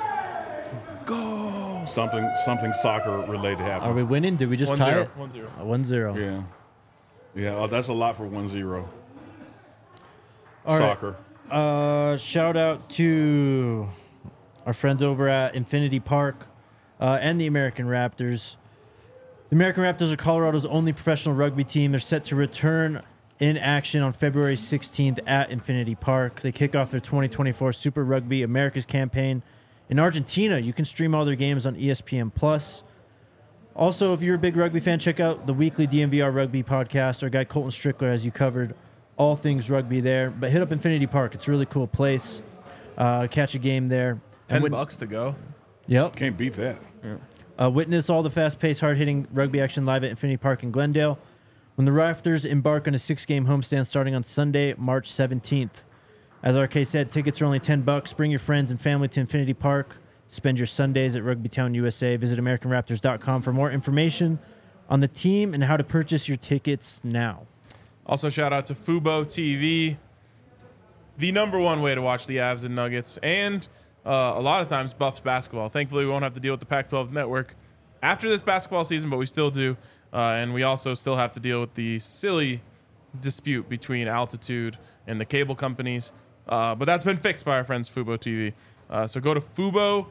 C: Go. Something something soccer related happened.
A: Are we winning? Did we just
B: One
A: tie
B: zero.
A: it?
B: One zero.
A: Uh, one zero.
C: Yeah. Yeah, oh, that's a lot for one zero.
A: All right.
C: Soccer.
A: Uh, shout out to our friends over at Infinity Park uh, and the American Raptors. The American Raptors are Colorado's only professional rugby team. They're set to return in action on February sixteenth at Infinity Park. They kick off their twenty twenty-four Super Rugby Americas campaign in Argentina. You can stream all their games on E S P N Plus. Also, if you're a big rugby fan, check out the weekly D N V R Rugby podcast. Our guy Colton Strickler has you covered all things rugby there. But hit up Infinity Park. It's a really cool place. Uh, catch a game there.
B: Ten
A: And wit-
B: bucks to go.
A: Yep.
C: Can't beat that.
A: Uh, witness all the fast-paced, hard-hitting rugby action live at Infinity Park in Glendale when the Raptors embark on a six-game homestand starting on Sunday, March seventeenth. As R K said, tickets are only ten bucks. Bring your friends and family to Infinity Park. Spend your Sundays at Rugby Town, U S A. Visit American Raptors dot com for more information on the team and how to purchase your tickets now.
B: Also, shout out to Fubo T V, the number one way to watch the Avs and Nuggets, and uh, a lot of times Buffs basketball. Thankfully, we won't have to deal with the Pac twelve network after this basketball season, but we still do. Uh, and we also still have to deal with the silly dispute between Altitude and the cable companies. Uh, but that's been fixed by our friends Fubo T V. Uh, so go to fubo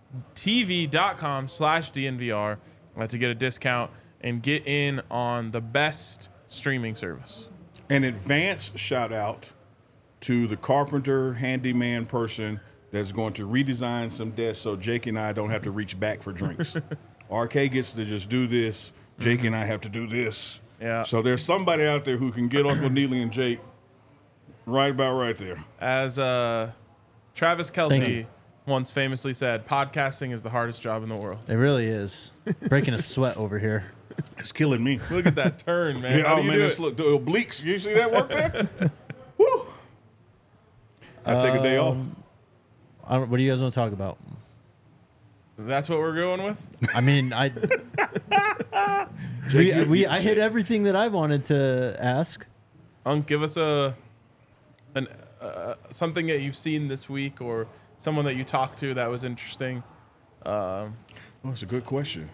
B: T V dot com slash D N V R uh, to get a discount and get in on the best streaming service.
C: An advance shout out to the carpenter, handyman person that's going to redesign some desks so Jake and I don't have to reach back for drinks. R K gets to just do this. Jake and I have to do this.
B: Yeah.
C: So there's somebody out there who can get Uncle Neely and Jake right about right there.
B: As uh, Travis
A: Thank
B: Kelce
A: you.
B: once famously said, podcasting is the hardest job in the world.
A: It really is. Breaking a sweat over here.
C: It's killing me.
B: Look at that turn, man.
C: Yeah,
B: How
C: oh
B: do you
C: man,
B: do
C: this
B: it?
C: look the obliques. You see that work there? Woo! I take a day off.
A: Um, I don't, what do you guys want to talk about?
B: That's what we're going with?
A: I mean, I we,
C: Jake, you-
A: we I hit everything that I wanted to ask.
B: Unc, give us a an uh, something that you've seen this week or someone that you talked to that was interesting. Um,
C: Oh, that's a good question.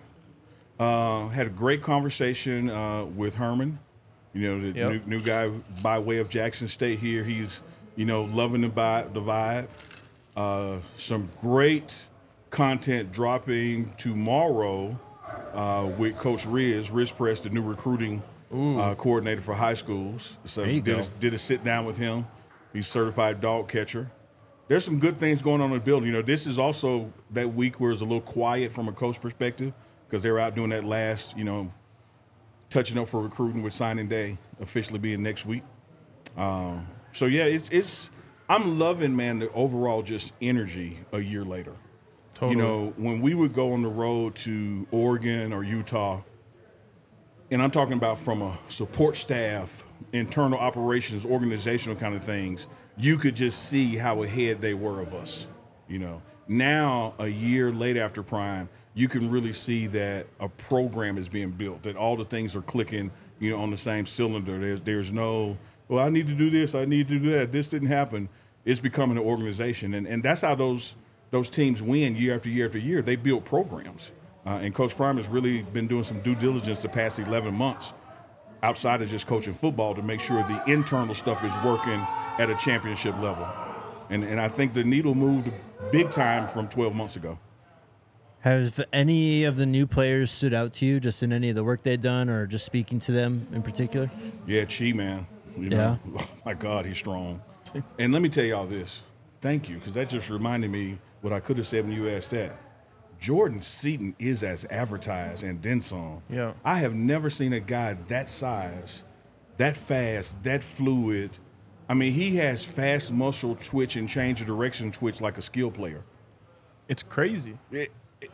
C: Uh, had a great conversation uh, with Herman. You know, the
B: Yep.
C: new, new guy by way of Jackson State here. He's, you know, loving the vibe. The vibe. Uh, some great content dropping tomorrow uh, with Coach Riz, Riz Press, the new recruiting uh, coordinator for high schools. So
A: There you
C: did
A: go.
C: a, did a sit down with him. He's certified dog catcher. There's some good things going on in the building. You know, this is also that week where it's a little quiet from a coach perspective because they're out doing that last, you know, touching up for recruiting with signing day officially being next week. Um, so yeah, it's it's. I'm loving, man, the overall just energy a year later.
B: totally.
C: You know, when we would go on the road to Oregon or Utah, and I'm talking about from a support staff, internal operations, organizational kind of things, you could just see how ahead they were of us. You know, now a year late after Prime, you can really see that a program is being built, that all the things are clicking, you know, on the same cylinder. There's there's no, well, I need to do this, I need to do that. This didn't happen. It's becoming an organization, and and that's how those those teams win year after year after year. They build programs, uh, and Coach Prime has really been doing some due diligence the past eleven months, outside of just coaching football, to make sure the internal stuff is working at a championship level. And and I think the needle moved big time from twelve months ago.
A: Have any of the new players stood out to you, just in any of the work they've done, or just speaking to them in particular?
C: Yeah, Chi, man. You know, oh my God, he's strong. And let me tell y'all this. Thank you, because that just reminded me what I could have said when you asked that. Jordan Seaton is as advertised and then some.
B: Yeah.
C: I have never seen a guy that size, that fast, that fluid. I mean, he has fast muscle twitch and change of direction twitch like a skill player.
B: It's crazy.
C: It, it,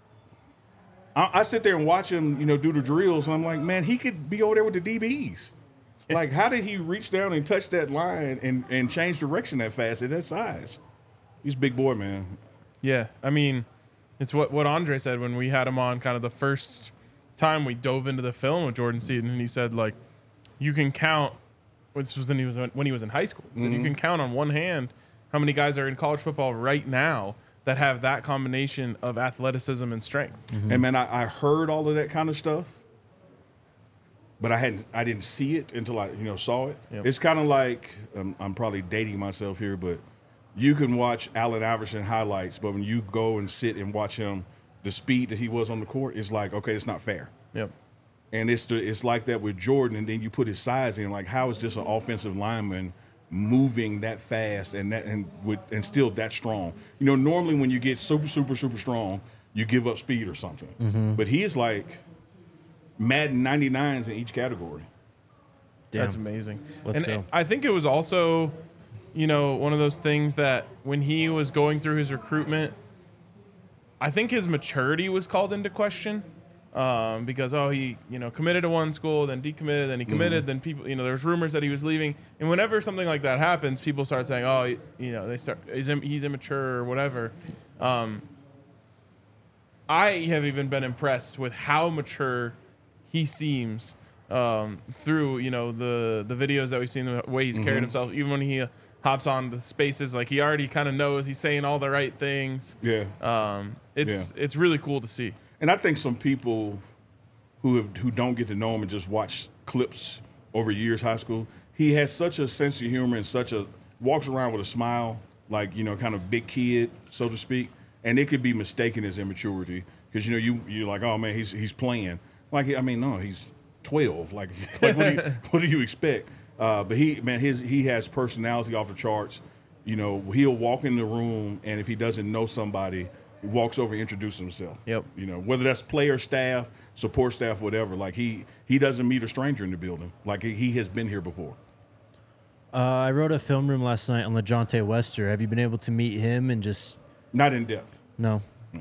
C: I, I sit there and watch him, you know, do the drills, and I'm like, man, he could be over there with the D Bs. Like, how did he reach down and touch that line and, and change direction that fast at that size? He's a big boy, man.
B: Yeah, I mean, it's what, what Andre said when we had him on kind of the first time we dove into the film with Jordan Seaton, and he said, like, you can count, this was when he was, when he was in high school, he said
C: Mm-hmm.
B: you can count on one hand how many guys are in college football right now that have that combination of athleticism and strength.
C: And man, I, I heard all of that kind of stuff, but I hadn't, I didn't see it until I, you know, saw it.
B: Yep.
C: It's kind of like, um, I'm probably dating myself here, but you can watch Allen Iverson highlights, but when you go and sit and watch him, the speed that he was on the court, it's like, okay, it's not fair.
B: Yep.
C: And it's the, it's like that with Jordan, and then you put his size in. Like, how is this an offensive lineman moving that fast and that and with and still that strong? You know, normally when you get super, super, super strong, you give up speed or something.
A: Mm-hmm.
C: But he is like Madden ninety-nines in each category.
B: That's
A: Damn.
B: amazing.
A: Let's
B: and
A: go.
B: I think it was also, you know, one of those things that when he was going through his recruitment, I think his maturity was called into question. Um, because oh he you know committed to one school, then decommitted, then he committed, then people you know there's rumors that he was leaving, and whenever something like that happens, people start saying oh you, you know they start he's, im- he's immature or whatever. Um, I have even been impressed with how mature he seems um, through you know the the videos that we've seen, the way he's carried himself, even when he uh, hops on the spaces, like he already kind of knows he's saying all the right things.
C: Yeah.
B: Um, it's it's really cool to see.
C: And I think some people who have who don't get to know him and just watch clips over years high school, he has such a sense of humor and such a walks around with a smile, like, you know, kind of big kid, so to speak. And it could be mistaken as immaturity because, you know, you you're like, oh man, he's he's playing. Like, I mean, no, he's twelve. Like, like what, do you, what do you expect? Uh, but he, man, his he has personality off the charts. You know, he'll walk in the room, and if he doesn't know somebody, he walks over and introduces himself.
B: Yep.
C: You know, whether that's player, staff, support staff, whatever. Like, he he doesn't meet a stranger in the building. Like, he, he has been here before.
A: Uh, I wrote a film room last night on LeJontay Wester. Have you been able to meet him and just
C: Not in depth.
A: no?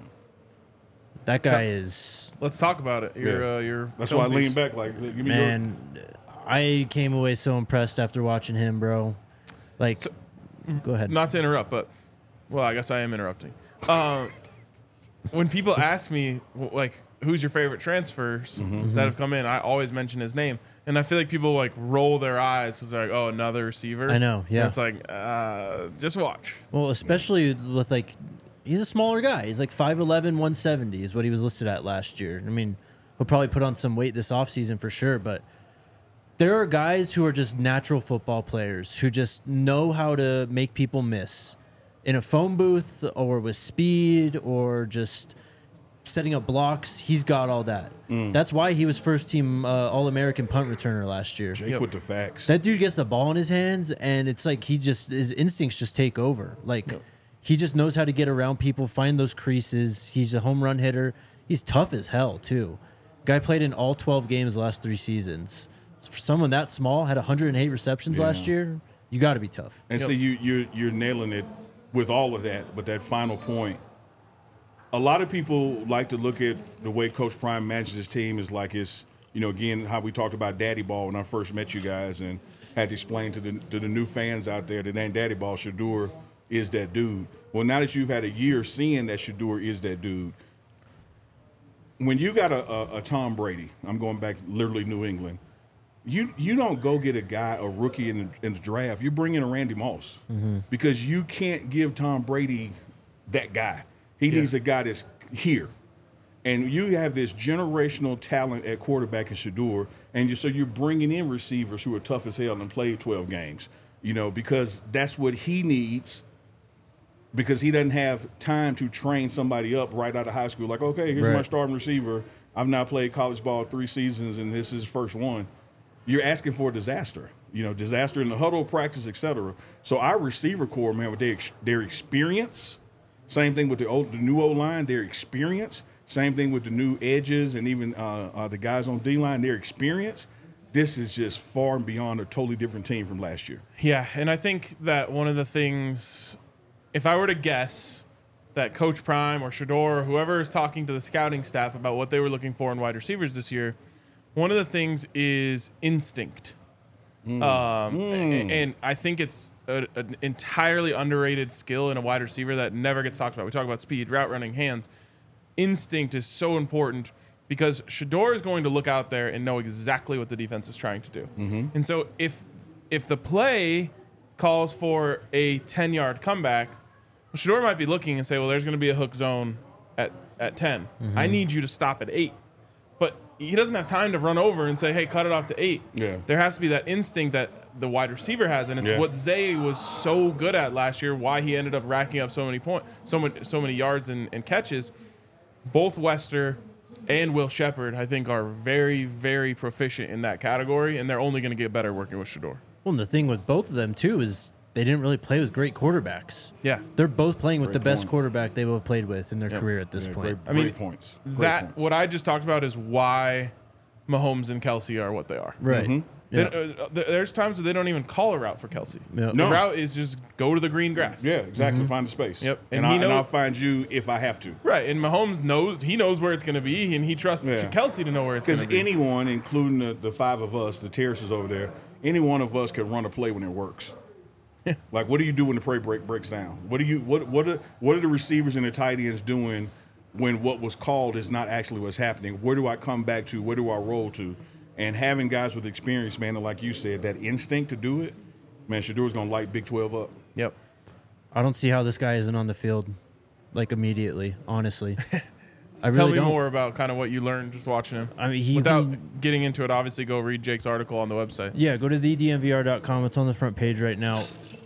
A: That guy is
B: Let's talk about it. Your
C: Yeah.
B: uh, your
C: That's
B: film
C: why I lean
B: piece.
C: back. Like, give me your.
A: man. I came away so impressed after watching him, bro. Like, go ahead.
B: Not to interrupt, but well, I guess I am interrupting. Uh, when people ask me w- like who's your favorite transfers
C: Mm-hmm.
B: that have come in, I always mention his name, and I feel like people like roll their eyes because they're like, oh, another receiver.
A: I know, yeah.
B: And it's like, uh, just watch.
A: Well, especially with like, he's a smaller guy. He's like five eleven, one seventy is what he was listed at last year. I mean, he'll probably put on some weight this offseason for sure, but there are guys who are just natural football players who just know how to make people miss in a phone booth or with speed or just setting up blocks. He's got all that. That's why he was first team uh, All-American punt returner last year.
C: Jake
B: Yep.
C: with the facts.
A: That dude gets the ball in his hands, and it's like he just his instincts just take over. Like he just knows how to get around people, find those creases. He's a home run hitter. He's tough as hell too. Guy played in all twelve games the last three seasons. For someone that small, had one hundred eight receptions
C: Yeah.
A: last year. You got to be tough.
C: And
B: Yep.
C: see, you you're you're nailing it with all of that, but that final point. A lot of people like to look at the way Coach Prime manages his team is like it's, you know, again, how we talked about Daddy Ball when I first met you guys and had to explain to the to the new fans out there that ain't Daddy Ball, Shador is that dude. Well, now that you've had a year seeing that Shador is that dude, when you got a, a, a Tom Brady, I'm going back literally New England, you you don't go get a guy, a rookie in the, in the draft. You bring in a Randy Moss because you can't give Tom Brady that guy. He
B: Yeah.
C: needs a guy that's here. And you have this generational talent at quarterback in Shador, and you, so you're bringing in receivers who are tough as hell and played twelve games, you know, because that's what he needs because he doesn't have time to train somebody up right out of high school. Like, okay, here's my
A: Right.
C: starting receiver. I've now played college ball three seasons, and this is his first one. You're asking for a disaster, you know, disaster in the huddle, practice, et cetera. So our receiver core, man, with their, ex- their experience, same thing with the old, the new O-line, their experience, same thing with the new edges and even uh, uh, the guys on D-line, their experience. This is just far and beyond a totally different team from last year.
B: Yeah, and I think that one of the things, if I were to guess that Coach Prime or Shador or whoever is talking to the scouting staff about what they were looking for in wide receivers this year, one of the things is instinct. Um, and, and I think it's a, an entirely underrated skill in a wide receiver that never gets talked about. We talk about speed, route running, hands. Instinct is so important because Shedeur is going to look out there and know exactly what the defense is trying to do.
C: Mm-hmm.
B: And so if if the play calls for a ten-yard comeback, well, Shedeur might be looking and say, well, there's going to be a hook zone at, at ten.
C: Mm-hmm.
B: I need you to stop at eight. But he doesn't have time to run over and say, hey, cut it off to eight.
C: Yeah.
B: There has to be that instinct that the wide receiver has, and it's
C: Yeah.
B: what Zay was so good at last year, why he ended up racking up so many points, so many, so many yards and, and catches. Both Wester and Will Shepherd, I think, are very, very proficient in that category, and they're only going to get better working with Shedeur.
A: Well, and the thing with both of them, too, is they didn't really play with great quarterbacks.
B: Yeah.
A: They're both playing with
C: Great
A: the best
C: point.
A: quarterback they've both played with in their
B: Yep.
A: career at this
C: Yeah,
A: point.
C: great,
B: I mean,
C: great points. Great
B: that
C: points.
B: what I just talked about is why Mahomes and Kelsey are what they are.
A: Right.
C: Mhm.
B: They-
A: Yeah.
B: uh, th- there's times where they don't even call a route for Kelsey.
A: Yep.
C: No.
B: The route is just go to the green grass.
C: Yeah, exactly. Find the space.
B: Yep.
C: And,
B: And
C: I,
B: he
C: and
B: knows-
C: I'll find you if I have to.
B: Right, and Mahomes knows he knows where it's going to be, and he trusts
C: Yeah.
B: Kelsey to know where it's going
C: Because
B: to be.
C: anyone, including the, the five of us, the terraces over there, any one of us could run a play when it works. Like, what do you do when the play break breaks down? What do you what what are what are the receivers and the tight ends doing when what was called is not actually what's happening? Where do I come back to? Where do I roll to? And having guys with experience, man, and like you said, that instinct to do it, man, Shadeur's gonna light Big twelve up.
B: Yep.
A: I don't see how this guy isn't on the field, like, immediately, honestly. I really
B: Tell me
A: don't.
B: more about kind of what you learned just watching him.
A: I mean, he
B: Without
A: can-
B: getting into it, obviously, go read Jake's article on the website.
A: Yeah, go to the d m v r dot com. It's on the front page right now.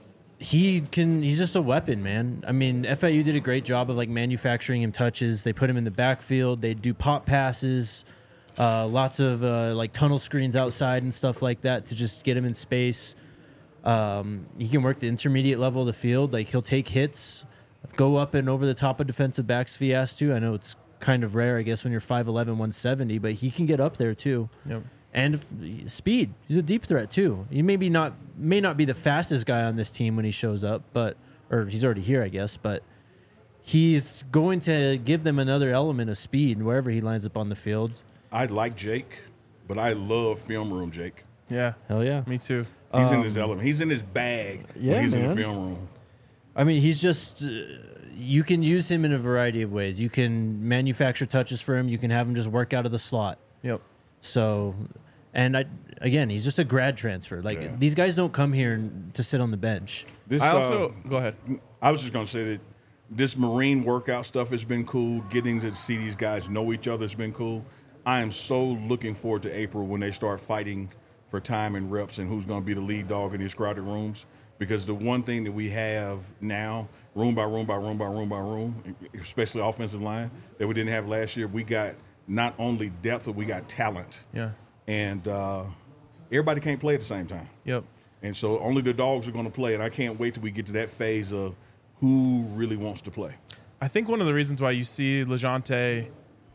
A: He can. He's just a weapon, man. I mean, F I U did a great job of like manufacturing him touches. They put him in the backfield. They do pop passes, uh, lots of uh, like tunnel screens outside and stuff like that to just get him in space. Um, he can work the intermediate level of the field. Like he'll take hits, go up and over the top of defensive backs if he has to. I know it's kind of rare, I guess, when you're five eleven, one seventy, but he can get up there too.
B: Yep.
A: And f- speed. He's a deep threat too. He maybe not may not be the fastest guy on this team when he shows up, but or he's already here, I guess. But he's going to give them another element of speed wherever he lines up on the field.
C: I like Jake, but I love film room Jake.
B: Yeah.
A: Hell yeah!
B: Me too.
C: He's in his element. He's in his bag
A: yeah,
C: when he's in
A: man.
C: the film room.
A: I mean, he's just. Uh, you can use him in a variety of ways. You can manufacture touches for him. You can have him just work out of the slot.
B: Yep.
A: So, and I again, he's just a grad transfer. Like
C: Yeah.
A: these guys don't come here to sit on the bench.
C: This,
B: I
C: uh,
B: also go ahead.
C: I was just going to say that this Marine workout stuff has been cool. Getting to see these guys know each other has been cool. I am so looking forward to April when they start fighting for time and reps and who's going to be the lead dog in these crowded rooms. Because the one thing that we have now, room by room by room by room by room, especially offensive line, that we didn't have last year, we got not only depth, but we got talent.
B: Yeah.
C: And uh, everybody can't play at the same time.
B: Yep.
C: And so only the dogs are going to play. And I can't wait till we get to that phase of who really wants to play.
B: I think one of the reasons why you see LeJounte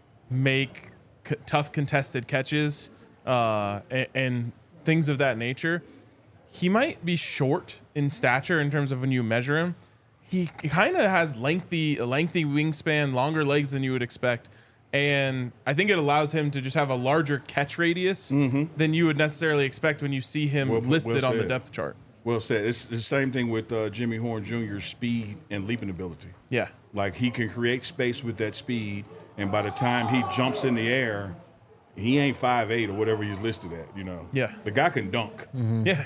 B: make c- tough contested catches uh, and, and things of that nature, he might be short in stature in terms of when you measure him. He kind of has lengthy, a lengthy wingspan, longer legs than you would expect. And I think it allows him to just have a larger catch radius than you would necessarily expect when you see him
C: Well- well
B: listed on the
C: said.
B: depth chart.
C: Well said. It's the same thing with uh, Jimmy Horn Junior's speed and leaping ability.
B: Yeah.
C: Like he can create space with that speed, and by the time he jumps in the air, he ain't five eight or whatever he's listed at. You know.
B: Yeah.
C: The guy can dunk.
B: Yeah.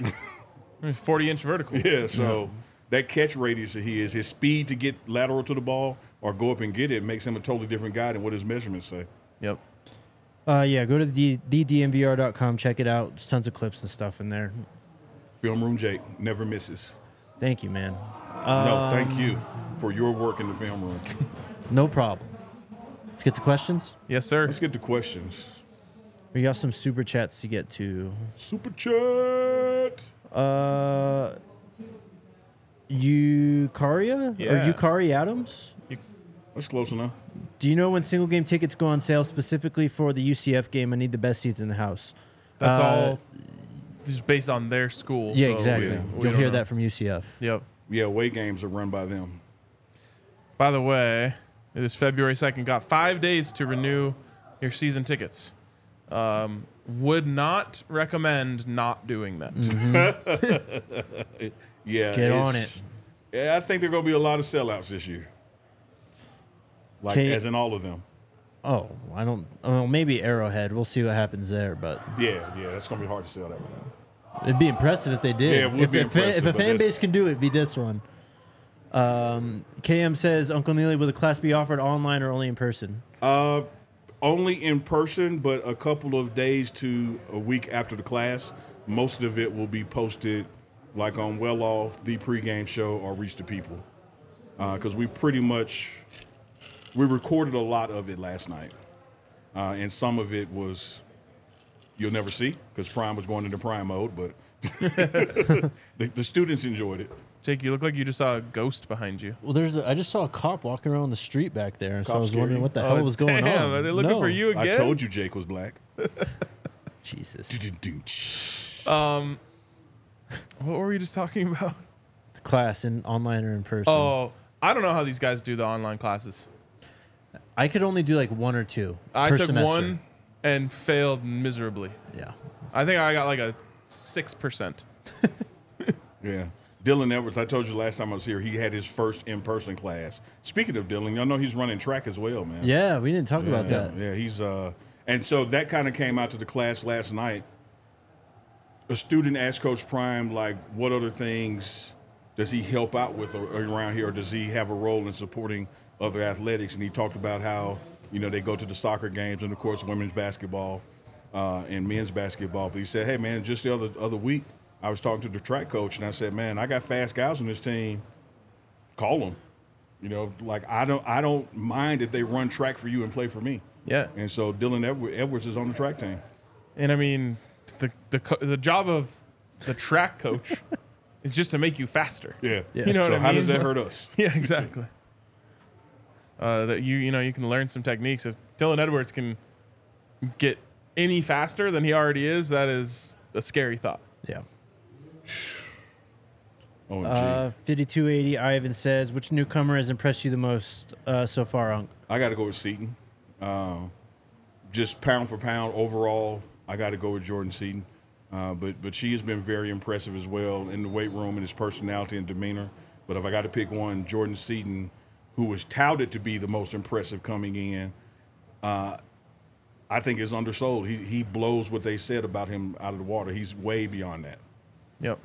B: forty inch vertical.
C: Yeah. So that catch radius that he is, his speed to get lateral to the ball or go up and get it makes him a totally different guy than what his measurements say.
B: Yep.
A: Uh, yeah, go to the d d m v r dot com, check it out. There's tons of clips and stuff in there.
C: Film room Jake never misses.
A: Thank you, man.
C: No, thank you for your work in the film room.
A: No problem. Let's get to questions.
B: Yes, sir.
C: Let's get to questions.
A: We got some super chats to get to.
C: Super chat.
A: Uh, Eucaria
B: Yeah.
A: or Eucari Adams?
C: That's close enough.
A: Do you know when single game tickets go on sale specifically for the U C F game? I need the best seats in the house.
B: That's
A: Uh,
B: all just based on their school.
A: Yeah,
B: so
A: exactly.
B: we- we
A: You'll
B: don't
A: hear
B: know.
A: that from U C F.
B: Yep.
C: Yeah, away games are run by them.
B: By the way, it is February second. Got five days to renew your season tickets. Um, Would not recommend not doing that.
A: Mm-hmm.
C: Yeah,
A: Get on
C: it's- Yeah, I think there are going to be a lot of sellouts this year. Like,
A: K-
C: as in all of them.
A: Oh, I don't. Oh, maybe Arrowhead. We'll see what happens there, but
C: Yeah, yeah, that's going to be hard to sell that one.
A: it'd be impressive if they did.
C: Yeah, it would
A: if,
C: be
A: if, fan-
C: impressive,
A: if a
C: but
A: fan
C: it's-
A: base can do it, it'd be this one. Um, K M says, Uncle Neely, will the class be offered online or only in person?
C: Uh, only in person, but a couple of days to a week after the class. Most of it will be posted like on Well Off, the pregame show, or Reach the People. Because we pretty much, we recorded a lot of it last night. Uh, and some of it was, you'll never see, because Prime was going into Prime mode, but the, the students enjoyed it.
B: Jake, you look like you just saw a ghost behind you.
A: Well, there's. A, I just saw a cop walking around the street back there, so I
C: Cop
A: was
C: scare
A: wondering
C: you?
A: what the
B: Oh,
A: hell was going
B: damn,
A: on.
B: Are they looking
A: No.
B: for you again?
C: I told you Jake was black.
A: Jesus.
B: Um, what were we just talking about?
A: Class in online or in person?
B: Oh, I don't know how these guys do the online classes.
A: I could only do like one or two.
B: I
A: per
B: took
A: semester.
B: one and failed miserably.
A: Yeah.
B: I think I got like a six percent.
C: Yeah. Dylan Edwards, I told you last time I was here, he had his first in-person class. Speaking of Dylan, y'all know he's running track as well, man.
A: Yeah, we didn't talk
C: yeah,
A: about that.
C: Yeah, he's uh and so that kind of came out to the class last night. A student asked Coach Prime, like, what other things does he help out with around here, or does he have a role in supporting other athletics? And he talked about how, you know, they go to the soccer games and, of course, women's basketball uh, and men's basketball. But he said, hey, man, just the other other week, I was talking to the track coach, and I said, man, I got fast guys on this team. Call them. You know, like, I don't I don't mind if they run track for you and play for me.
B: Yeah,
C: And so Dylan Edward- Edwards is on the track team.
B: and I mean, the the co- the job of the track coach is just to make you faster.
C: Yeah.
A: Yeah.
B: You know
C: So
B: what I
C: how
B: mean?
C: does that hurt us?
B: Yeah, exactly. Uh, that you you know you can learn some techniques. If Dylan Edwards can get any faster than he already is, that is a scary thought.
A: Yeah.
C: O M G.
A: Uh, fifty-two eighty, Ivan says, which newcomer has impressed you the most uh, so far, Unc?
C: I got to go with Seton. Uh, just pound for pound overall, I got to go with Jordan Seton. Uh, but but she has been very impressive as well in the weight room and his personality and demeanor. But if I got to pick one, Jordan Seton, who was touted to be the most impressive coming in, uh, I think is undersold. He he blows what they said about him out of the water. He's way beyond that.
B: Yep.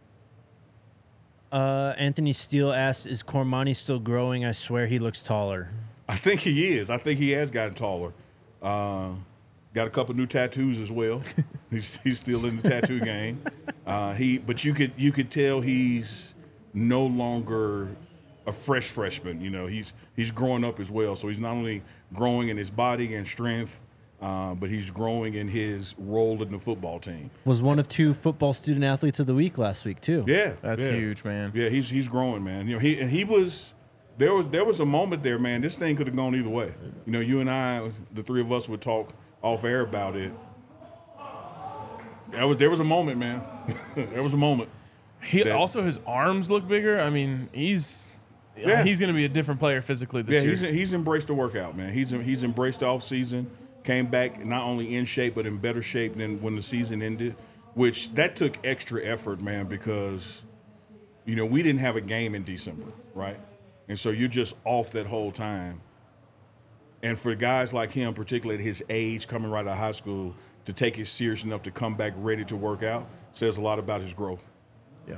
A: Uh, Anthony Steele asks, is Cormani still growing? I swear he looks taller.
C: I think he is. I think he has gotten taller. Uh, got a couple new tattoos as well. he's he's still in the tattoo game. Uh, he, but you could you could tell he's no longer a fresh freshman. You know, he's he's growing up as well. So he's not only growing in his body and strength, uh, but he's growing in his role in the football team.
A: Was one of two football student athletes of the week last week, too.
C: Yeah,
B: That's
C: yeah.
B: huge, man.
C: Yeah, he's he's growing, man. You know, he and he was there was there was a moment there, man. This thing could have gone either way. You know, you and I, the three of us, would talk off air about it. There was there was a moment, man. There was a moment.
B: He
C: That-
B: also his arms look bigger. I mean, he's
C: Yeah.
B: he's going to be a different player physically this
C: Yeah,
B: year.
C: he's he's embraced the workout, man. He's he's embraced the off season. Came back not only in shape but in better shape than when the season ended, which that took extra effort, man, because you know we didn't have a game in December, right? And so you're just off that whole time. And for guys like him, particularly at his age, coming right out of high school, to take it serious enough to come back ready to work out says a lot about his growth.
B: yeah.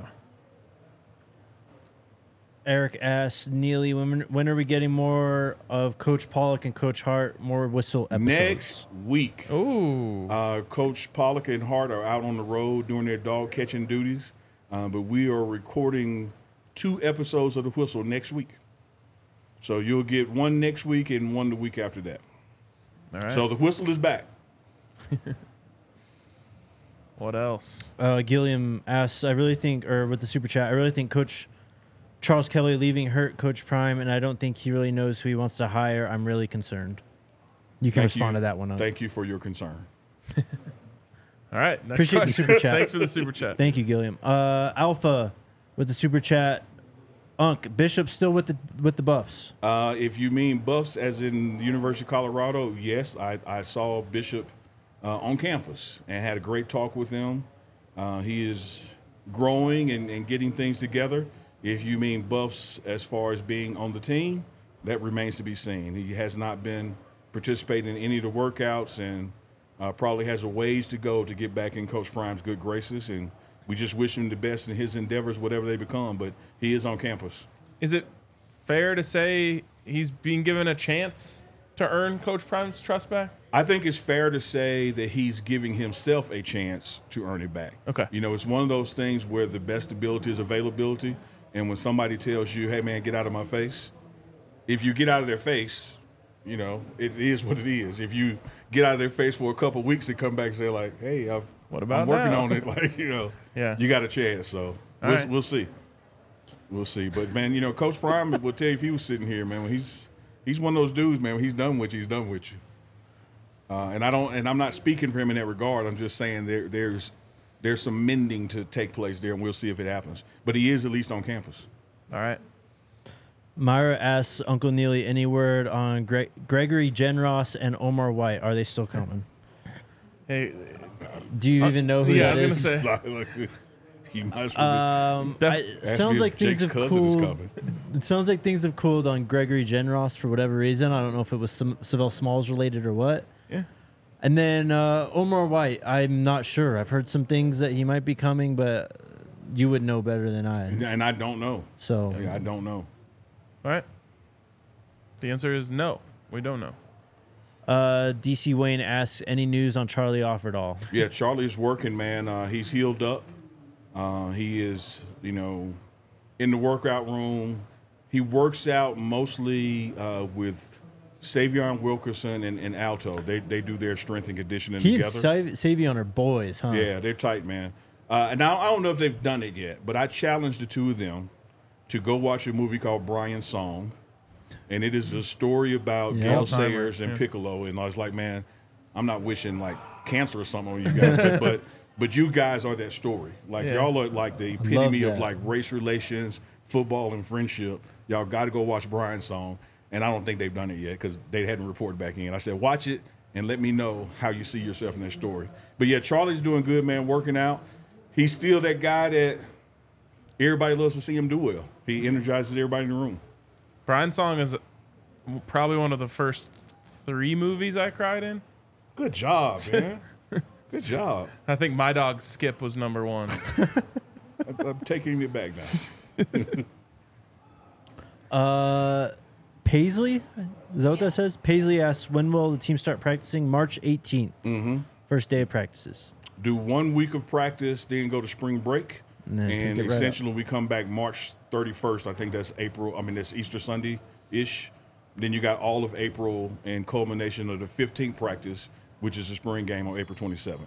A: Eric asks, Neely, when, when are we getting more of Coach Pollock and Coach Hart, more whistle episodes?
C: Next week,
B: Ooh.
C: Uh, Coach Pollock and Hart are out on the road doing their dog catching duties, uh, but we are recording two episodes of The Whistle next week. So you'll get one next week and one the week after that.
B: All right.
C: So The Whistle is back.
B: What else?
A: Uh, Gilliam asks, I really think, or with the super chat, I really think Coach Charles Kelly leaving hurt Coach Prime, and I don't think he really knows who he wants to hire. I'm really concerned. You can
C: Thank
A: respond
C: you.
A: to that one. Unc.
C: Thank you for your concern.
B: All right. Next
A: Appreciate the
B: question.
A: super chat.
B: Thanks for the super chat.
A: Thank you, Gilliam. Uh, Alpha with the super chat. Unc, Bishop still with the with the Buffs.
C: Uh, if you mean Buffs as in the University of Colorado, yes, I, I saw Bishop uh, on campus and had a great talk with him. Uh, he is growing and, and getting things together. If you mean buffs as far as being on the team, that remains to be seen. He has not been participating in any of the workouts and uh, probably has a ways to go to get back in Coach Prime's good graces. And we just wish him the best in his endeavors, whatever they become. But he is on campus.
B: Is it fair to say he's being given a chance to earn Coach Prime's trust back?
C: I think it's fair to say that he's giving himself a chance to earn it back.
B: Okay.
C: You know, it's one of those things where the best ability is availability. And when somebody tells you, hey, man, get out of my face, if you get out of their face, you know, it is what it is. If you get out of their face for a couple of weeks and come back and say, like, hey, I've,
B: What about
C: I'm working
B: now?
C: on it, like, you know,
B: Yeah.
C: you got a chance. So we'll,
B: right.
C: we'll see. We'll see. But, man, you know, Coach Prime will tell you if he was sitting here, man, when he's he's one of those dudes, man, when he's done with you, he's done with you. Uh, and I don't, and I'm not speaking for him in that regard. I'm just saying there, there's there's some mending to take place there, and we'll see if it happens. But he is at least on campus.
B: All right.
A: Myra asks Uncle Neely any word on Gre- Gregory Genros and Omar White. Are they still coming?
B: Hey,
A: Do you even know who
B: yeah,
A: that
B: I was
A: is?
B: gonna say.
C: Like, he might as well
A: Um,
B: Def-
A: I, it
C: ask
A: sounds
C: me
A: like
C: if
A: things
C: Jake's
A: have
C: cousin is
A: cooled.
C: coming.
A: It sounds like things have cooled on Gregory Genros for whatever reason. I don't know if it was some Savell Smalls related or what.
B: Yeah.
A: And then uh, Omar White, I'm not sure. I've heard some things that he might be coming, but you would know better than I.
C: And I don't know.
A: So
C: Yeah, I don't know.
B: All right. The answer is no. We don't know.
A: uh, D C Wayne asks any news on Charlie Offerdahl.
C: Yeah, Charlie's working, man. Uh, he's healed up. Uh, he is, you know, in the workout room. He works out mostly uh, with Savion Wilkerson and, and Alto. They they do their strength and conditioning
A: He and
C: together.
A: Sav- Savion are boys, huh?
C: Yeah, they're tight, man. Uh, and I, I don't know if they've done it yet, but I challenged the two of them to go watch a movie called Brian's Song. And it is a story about
A: Yeah.
C: Gail
B: Alzheimer's,
C: Sayers and
B: yeah.
C: Piccolo. And I was like, man, I'm not wishing like cancer or something on you guys, but, but but you guys are that story. Like
B: Yeah.
C: y'all are like the epitome of
A: that.
C: like race relations, football, and friendship. Y'all got to go watch Brian's Song. And I don't think they've done it yet because they hadn't reported back in. I said, watch it and let me know how you see yourself in that story. But yeah, Charlie's doing good, man, working out. He's still that guy that everybody loves to see him do well. He energizes everybody in the room.
B: Brian's Song is probably one of the first three movies I cried in.
C: Good job, man. Good job.
B: I think My Dog Skip was number one.
C: I'm, I'm taking it back now.
A: Uh, Paisley, is that what that says? Paisley asks, when will the team start practicing? March eighteenth. Mm-hmm. First day of practices.
C: Do one week of practice, then go to spring break.
A: And then
C: And
A: pick it right
C: essentially, we come back March thirty-first. I think that's April. I mean, that's Easter Sunday-ish. Then you got all of April and culmination of the fifteenth practice, which is the spring game on April twenty-seventh.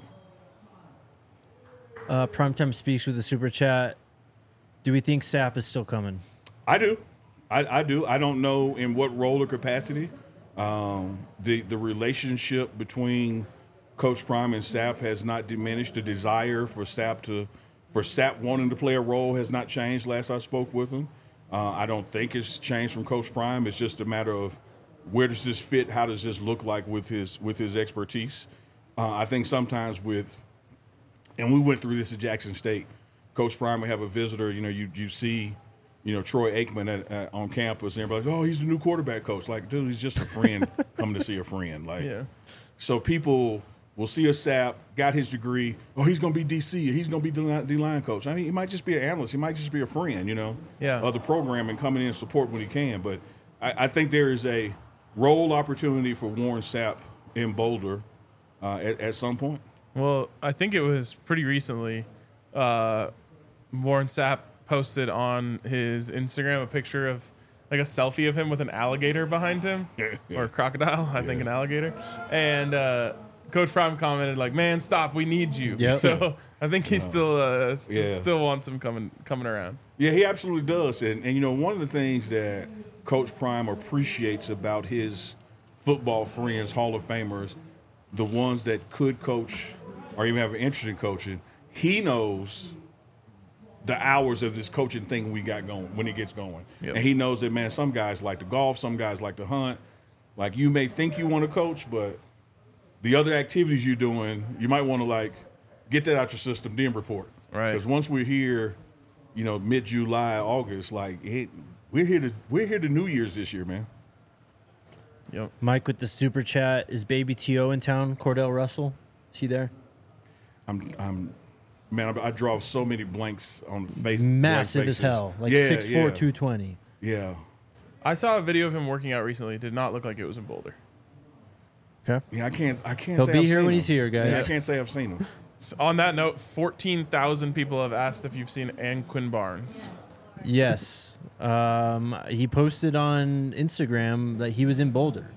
A: Uh, Primetime Speaks with the super chat. Do we think Sapp is still coming?
C: I do. I, I do. I don't know in what role or capacity. Um, the the relationship between Coach Prime and Sapp has not diminished. The desire for Sapp to for Sapp wanting to play a role has not changed. Last I spoke with him, uh, I don't think it's changed from Coach Prime. It's just a matter of where does this fit? How does this look like with his with his expertise? Uh, I think sometimes with, and we went through this at Jackson State. Coach Prime would have a visitor. You know, you you see. You know, Troy Aikman at, at, on campus, and everybody's like, oh, he's the new quarterback coach. Like, dude, he's just a friend coming to see a friend. Like,
B: Yeah.
C: so people will see a Sapp, got his degree. Oh, he's going to be D C. He's going to be D-line coach. I mean, he might just be an analyst. He might just be a friend, you know,
B: Yeah.
C: of the program and coming in and support when he can. But I, I think there is a role opportunity for Warren Sapp in Boulder uh, at, at some point.
B: Well, I think it was pretty recently. Uh, Warren Sapp posted on his Instagram a picture of like a selfie of him with an alligator behind him, or a crocodile, I think an alligator. And uh, Coach Prime commented like, "Man, stop! We need you."
A: Yep.
B: So I think he still uh, st-
C: Yeah.
B: still wants him coming coming around.
C: Yeah, he absolutely does. And, and, you know, one of the things that Coach Prime appreciates about his football friends, Hall of Famers, the ones that could coach or even have an interest in coaching, he knows the hours of this coaching thing we got going when it gets going.
B: Yep.
C: And he knows that, man, some guys like to golf, some guys like to hunt. Like, you may think you want to coach, but the other activities you're doing, you might want to like get that out your system, then report.
B: Right.
C: Because once we're here, you know, mid July, August, like it, we're here to we're here to New Year's this year, man.
B: Yep.
A: Mike with the super chat. Is Baby T O in town? Cordell Russell? Is he there?
C: I'm I'm man, I, I draw so many blanks on the face.
A: Massive
C: blank
A: as
C: faces.
A: hell. Like
C: yeah,
A: six four,
C: yeah,
A: two twenty.
C: Yeah.
B: I saw a video of him working out recently. It did not look like it was in Boulder.
A: Okay.
C: Yeah, I can't I can't
A: He'll
C: say
A: be
C: I've
A: here
C: seen
A: when
C: him.
A: he's here, guys.
C: Yeah, I can't say I've seen him.
B: S- On that note, fourteen thousand people have asked if you've seen Anquin Barnes.
A: Yes. Um, he posted on Instagram that he was in Boulder.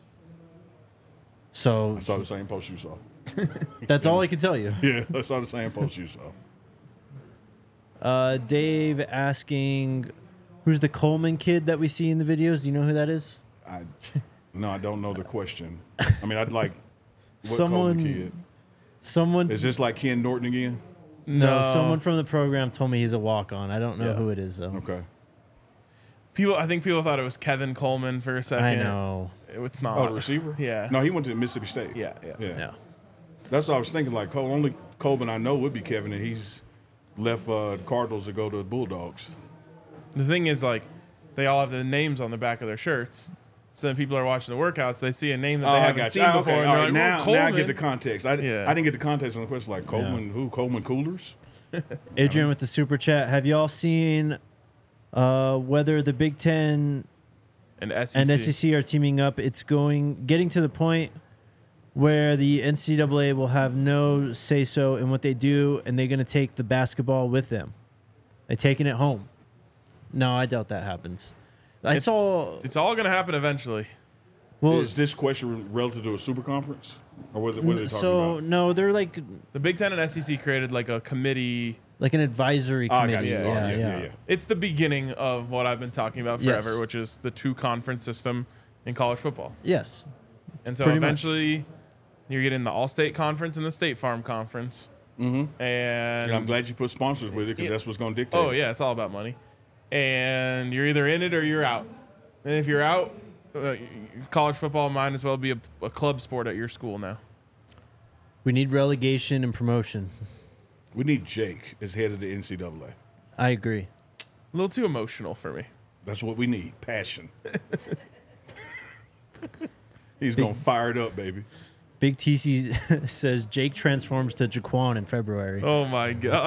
A: So
C: I saw the same post you saw.
A: that's all I can tell you.
C: Yeah, I saw the same post you saw.
A: Uh, Dave asking, who's the Coleman kid that we see in the videos? Do you know who that is?
C: I no, I don't know the question. I mean, I'd like what
A: Someone-
C: Coleman kid.
A: Someone,
C: Is this like Ken Norton again?
A: no,
B: No.
A: someone from the program told me he's a walk-on. I don't know
B: Yeah.
A: who it is though.
C: Okay.
B: People, I think people thought it was Kevin Coleman for a second.
A: I know.
B: It's not.
C: Oh, the receiver?
B: Yeah.
C: No, he went to Mississippi State.
B: Yeah, yeah.
C: Yeah.
A: Yeah.
C: That's what I was thinking. Like, Cole, only Coleman I know would be Kevin, and he's left uh, the Cardinals to go to the Bulldogs.
B: The thing is, like, they all have the names on the back of their shirts. So then people are watching the workouts. They see a name that
C: Oh,
B: they
C: I
B: haven't
C: got
B: seen
C: you. Ah,
B: before.
C: okay,
B: And
C: all
B: they're
C: right.
B: like,
C: Now,
B: well,
C: now I
B: Coleman.
C: get the context. I,
B: Yeah.
C: I didn't get the context on the question. Like, Coleman, who? Coleman Coolers?
A: Adrian with the super chat. Have y'all seen uh, whether the Big Ten
B: and S E C.
A: and S E C are teaming up? It's going getting to the point where the N C double A will have no say so in what they do, and they're going to take the basketball with them. They're taking it home. No, I doubt that happens. I
B: It's-
A: saw.
B: It's all going to happen eventually.
A: Well,
C: Is this question relative to a super conference? Or what, what are they talking
A: so
C: about?
A: no, they're like
B: The Big Ten and S E C created like a committee.
A: like an advisory
C: Ah, I
A: committee.
C: got you.
B: Yeah,
C: Oh,
A: yeah,
C: yeah,
A: yeah.
C: yeah, yeah.
B: It's the beginning of what I've been talking about forever,
A: Yes.
B: which is the two conference system in college football.
A: Yes.
B: And so
A: Pretty much.
B: eventually you're getting the All-State Conference and the State Farm Conference. Mm-hmm. And,
C: And I'm glad you put sponsors with it because
B: Yeah.
C: that's what's going to dictate.
B: oh, yeah, it's all about money. And you're either in it or you're out. And if you're out, uh, college football might as well be a, a club sport at your school now.
A: We need relegation and promotion.
C: We need Jake as head of the N C double A.
A: I agree.
B: A little too emotional for me.
C: That's what we need. Passion. He's going to fire it up, baby.
A: Big T C says Jake transforms to Jaquan in February.
B: Oh, my God.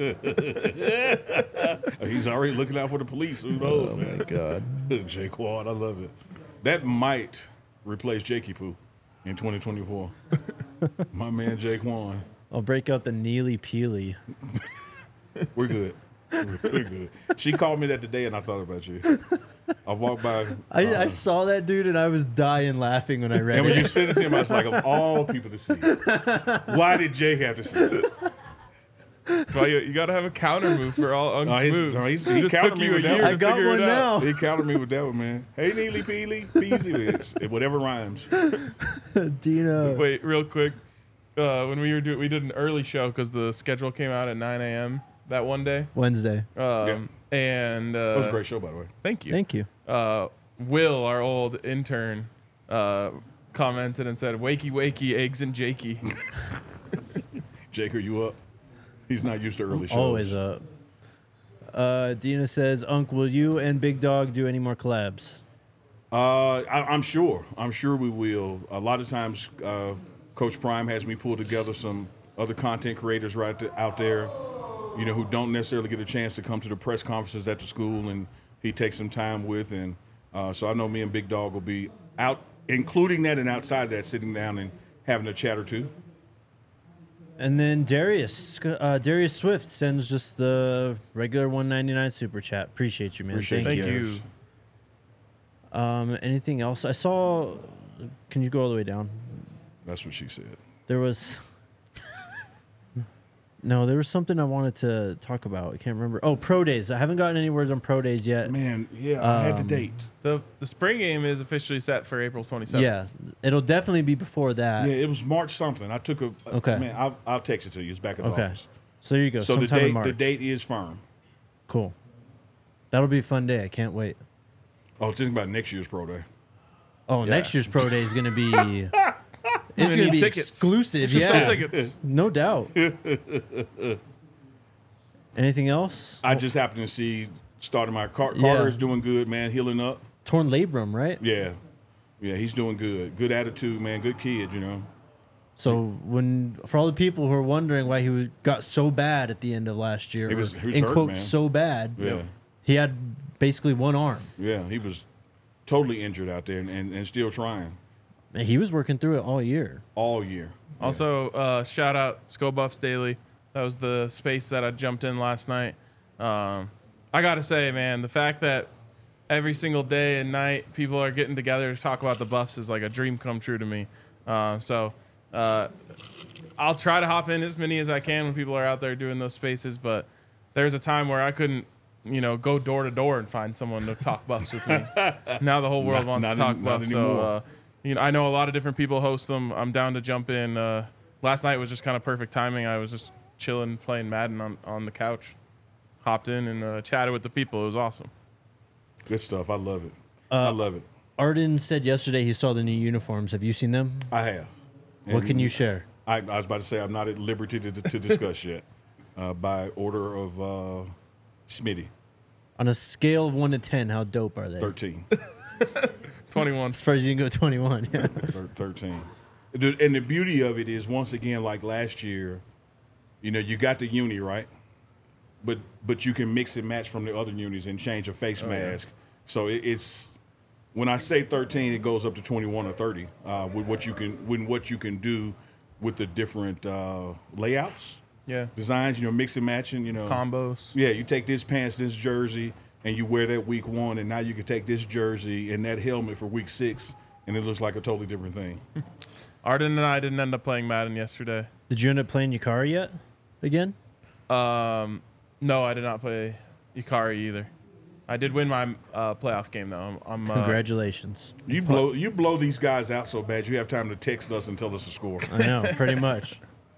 C: He's already looking out for the police. Who knows,
A: Oh,
C: man?
A: my God.
C: Jake Ward, I love it. That might replace Jakey Poo in twenty twenty-four. My man Jake Wan.
A: I'll break out the Neely Peely.
C: We're good. We're good. She called me that today, and I thought about you. I walked by.
A: I,
C: uh,
A: I saw that dude and I was dying laughing when I read
C: and when you
A: it.
C: sent it to him, I was like, of all people to see, why did Jake have to see it?
B: Well, you, you got to have a counter move for all Unk's
C: No, he's-
B: moves.
C: no, he's-
B: It
C: he
B: just
C: countered
B: took
C: me
B: you a
C: with that
B: year
C: one.
B: to
A: I got
B: figure
A: one
B: it out.
A: now.
C: He countered me with that one, man. Hey, Neely Peely, Peasy, it's- it- whatever rhymes.
A: Dino.
B: Wait, real quick. Uh, when we were doing, we did an early show because the schedule came out at nine a.m. that one day.
A: Wednesday.
B: Um, And uh,
C: That was a great show, by the way.
B: Thank you.
A: Thank you.
B: Uh, Will, our old intern, uh, commented and said, "Wakey, wakey, eggs and Jakey."
C: Jake, are you up? He's not used to early shows.
A: Always up. Uh, Dina says, Unc, will you and Big Dog do any more collabs?
C: Uh, I, I'm sure. I'm sure we will. A lot of times, uh, Coach Prime has me pull together some other content creators right th- out there, you know, who don't necessarily get a chance to come to the press conferences at the school, and he takes some time with. And uh, so I know me and Big Dog will be out, including that and outside of that, sitting down and having a chat or two.
A: And then Darius, uh, Darius Swift sends just the regular one ninety-nine super chat. Appreciate you, man.
C: Appreciate
A: Thank
B: Thank
A: you.
C: Yes.
B: you.
A: Um, anything else? I saw. Can you go all the way down?
C: That's what she said.
A: There was. No, there was something I wanted to talk about. I can't remember. Oh, pro days. I haven't gotten any words on pro days yet.
C: Man, yeah, I had the
A: Um,
C: date.
B: The the spring game is officially set for April twenty-seventh.
A: Yeah, it'll definitely be before that.
C: Yeah, it was March something. I took a.
A: Okay.
C: Man, I'll, I'll text it to you. It's back at the
A: Okay.
C: office.
A: So there you go.
C: So the
A: sometime in
C: date,
A: March.
C: the date is firm.
A: Cool. That'll be a fun day. I can't wait.
C: Oh, think about next year's pro day.
A: Oh,
B: Yeah.
A: next year's pro day is going to be It's
B: We
A: going to
B: need
A: be
B: tickets.
A: exclusive.
B: Should
A: Yeah,
B: sell tickets.
A: no doubt. Anything else?
C: I just happened to see starting my Car-
A: Yeah.
C: Carter's doing good, man, healing up.
A: Torn labrum, right?
C: Yeah, yeah, he's doing good. Good attitude, man. Good kid, you know.
A: So when for all the people who are wondering why he was, got so bad at the end of last year,
C: He was-
A: or
C: he was
A: in
C: hurt,
A: quotes
C: man.
A: so bad,
C: Yeah,
A: he had basically one arm.
C: yeah, he was totally injured out there and, and, and still trying
A: And he was working through it all year.
C: all year.
B: Also, uh, shout out Sco Buffs Daily. That was the space that I jumped in last night. Um, I got to say, man, the fact that every single day and night people are getting together to talk about the Buffs is like a dream come true to me. Uh, so uh, I'll try to hop in as many as I can when people are out there doing those spaces. But there's a time where I couldn't, you know, go door to door and find someone to talk Buffs with me. Now the whole world
C: Not-
B: wants
C: not
B: to talk
C: any- not
B: Buffs. So,
C: anymore.
B: uh, you know, I know a lot of different people host them. I'm down to jump in. Uh, last night was just kind of perfect timing. I was just chilling, playing Madden on, on the couch. Hopped in and uh, chatted with the people. It was awesome.
C: Good stuff. I love it. I love it.
A: Arden said yesterday he saw the new uniforms. Have you seen them?
C: I have.
A: What
C: And
A: can you share?
C: I, I was about to say I'm not at liberty to, to discuss yet. Uh, by order of uh, Smitty,
A: On a scale of one to ten, how dope are they?
C: thirteen.
B: twenty-one.
A: As far as you can go, twenty-one. Yeah.
C: Thir- thirteen. The- And the beauty of it is, once again, like last year, you know, you got the uni, right? But but you can mix and match from the other unis and change a face mask. So it, it's when I say thirteen, it goes up to twenty-one or thirty uh, with what you can when what you can do with the different uh, layouts,
B: Yeah.
C: designs. You know, mix and matching. You know,
B: Combos.
C: yeah, you take this pants, this jersey, and you wear that week one, and now you can take this jersey and that helmet for week six, and it looks like a totally different thing.
B: Arden and I didn't end up playing Madden yesterday.
A: Did you end up playing Yukari yet? Again?
B: Um, no, I did not play Ikari either. I did win my uh, playoff game though. I'm, I'm uh,
A: Congratulations.
C: You blow you blow these guys out so bad you have time to text us and tell us the score.
A: I know, pretty much.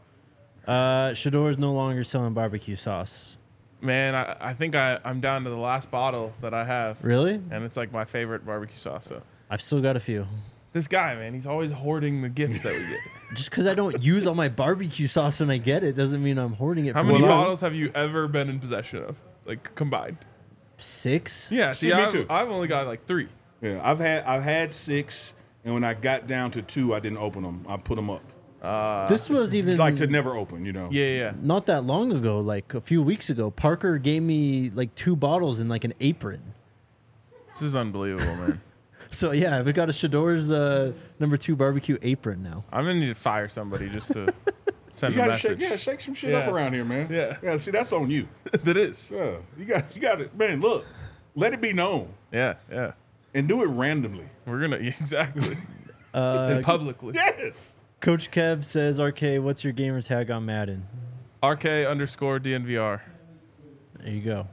A: Uh, Shador is no longer selling barbecue sauce.
B: man. I, I think I, I'm down to the last bottle that I have.
A: Really?
B: And it's like my favorite barbecue sauce. So
A: I've still got a few.
B: this guy, man, he's always hoarding the gifts that we get.
A: Just because I don't use all my barbecue sauce when I get it doesn't mean I'm hoarding it.
B: How
A: for
B: many
A: long.
B: bottles have you ever been in possession of, like combined?
A: Six?
B: Yeah,
C: See,
B: see,
C: me
B: I've,
C: too.
B: I've only got like three.
C: Yeah, I've had I've had six, and when I got down to two, I didn't open them. I put them up,
A: This was even
C: like to never open. You know.
B: Yeah, yeah.
A: not that long ago, like a few weeks ago. Parker gave me like two bottles in like an apron.
B: This is unbelievable, man.
A: So yeah, I've got a Shador's uh, number two barbecue apron now.
B: I'm gonna need to fire somebody just to send
C: You
B: a
C: gotta shake,
B: message.
C: yeah, shake some shit
B: Yeah.
C: up around here, man.
B: Yeah.
C: yeah. See, that's on you.
B: that is.
C: Yeah, you got, you got it, man. Look, let it be known,
B: Yeah, yeah.
C: and do it randomly.
B: We're gonna yeah, exactly
A: Uh,
B: and publicly.
C: Yes.
A: Coach Kev says, "R K, what's your gamer tag on Madden?"
B: R K underscore D N V R.
A: There you go.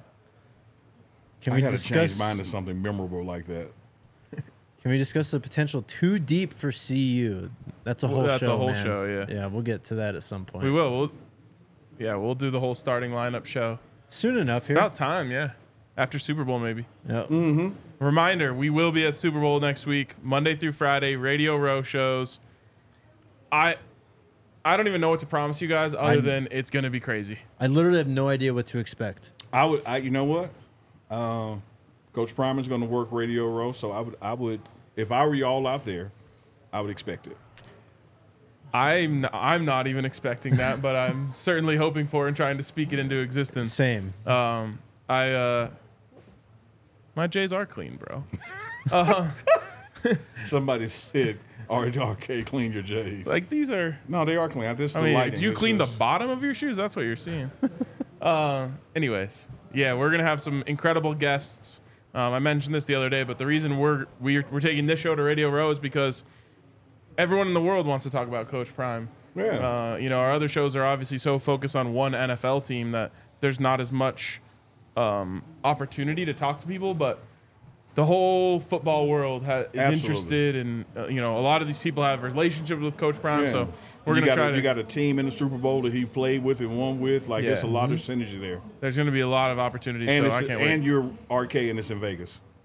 A: Can
C: I
A: we
C: gotta
A: discuss?
C: change mine to something memorable like that.
A: Can we discuss the potential too deep for C U? That's a whole
B: That's a
A: show.
B: whole
A: man.
B: show, yeah.
A: Yeah, we'll get to that at some point.
B: We will. We'll, yeah, we'll do the whole starting lineup show.
A: Soon enough here.
B: About time, yeah. After Super Bowl, maybe.
A: Yep.
B: Reminder: we will be at Super Bowl next week, Monday through Friday, Radio Row shows. I, I don't even know what to promise you guys, other
A: I'm-
B: than it's gonna be crazy.
A: I literally have no idea what to expect.
C: I would, I, you know what? Um, Coach Primer's going to work Radio Row, so I would, I would, if I were y'all out there, I would expect it.
B: I'm I'm not even expecting that, but I'm certainly hoping for and trying to speak it into existence.
A: Same.
B: Um, I uh, my J's are clean, bro.
C: Somebody said, R K, clean your J's.
B: Like these are.
C: no, they are clean. This is
B: I
C: the
B: mean,
C: lighting.
B: do you
C: It's
B: clean the
C: just-
B: bottom of your shoes? That's what you're seeing. uh, anyways, yeah, we're gonna have some incredible guests. Um, I mentioned this the other day, but the reason we're we're, we're taking this show to Radio Row is because everyone in the world wants to talk about Coach Prime.
C: Yeah.
B: Uh, you know, our other shows are obviously so focused on one N F L team that there's not as much um, opportunity to talk to people, but the whole football world ha- is
C: Absolutely.
B: interested, and uh, you know, a lot of these people have relationships with Coach Prime,
C: Yeah.
B: so we're
C: you
B: gonna
C: got
B: try
C: a,
B: to.
C: You got a team in the Super Bowl that he played with and won with. Like,
B: Yeah.
C: there's a lot of synergy there.
B: There's gonna be a lot of opportunities,
C: And,
B: so
C: it's,
B: I can't
C: and
B: wait.
C: you're R K and it's in Vegas.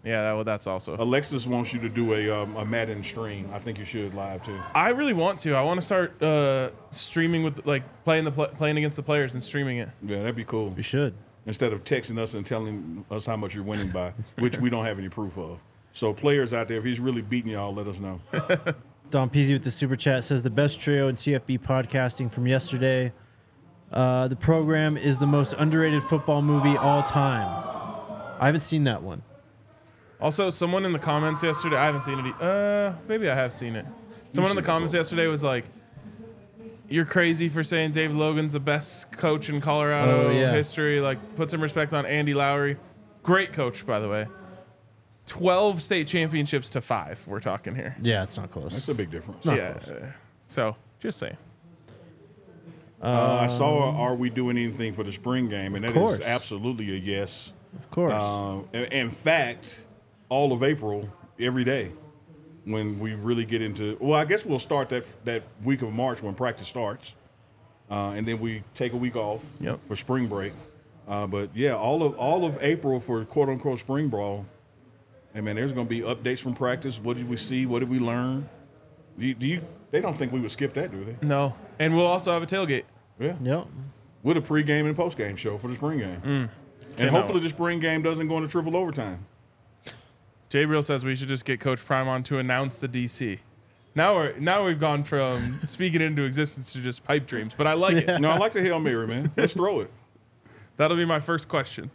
B: Yeah, that, well, that's also.
C: Alexis wants you to do a um, a Madden stream. I think you should live too.
B: I really want to. I want to start uh, streaming with like playing the pl- playing against the players and streaming it.
C: Yeah, that'd be cool.
A: You should.
C: Instead of texting us and telling us how much you're winning by, which we don't have any proof of. So players out there, if he's really beating y'all, let us know.
A: Don Peasy with the super chat says the best trio in C F B podcasting from yesterday. Uh, the program is the most underrated football movie all time. I haven't seen that one.
B: Also, someone in the comments yesterday, I haven't seen it. e- Uh, maybe I have seen it. Someone in the
C: seen it,
B: comments
C: bro.
B: yesterday was like, "You're crazy for saying David Logan's the best coach in Colorado
A: Oh, yeah.
B: history." Like, put some respect on Andy Lowry. Great coach, by the way. twelve state championships to five. We're talking here.
A: Yeah, it's not close.
C: That's a big difference.
B: yeah. uh, So, just saying.
C: Uh, I saw Are We Doing Anything for the spring game? And that
A: course.
C: is absolutely a yes.
A: Of course.
C: Um, in, in fact, all of April, every day, when we really get into, well, I guess we'll start that that week of March when practice starts, uh, and then we take a week off
B: Yep.
C: for spring break. Uh, but yeah, all of all of April for quote unquote spring ball. Hey man, there's going to be updates from practice. What did we see? What did we learn? Do you, do you? They don't think we would skip that, do they?
B: No. And we'll also have a tailgate.
C: Yeah.
A: yep.
C: With a pregame and postgame show for the spring game. And
B: Cannot
C: hopefully
B: wait.
C: the spring game doesn't go into triple overtime.
B: Jay Real says we should just get Coach Prime on to announce the D C. Now we're now we've gone from speaking into existence to just pipe dreams, but I like it.
C: No, I like the Hail Mary, man. Let's throw it.
B: That'll be my first question.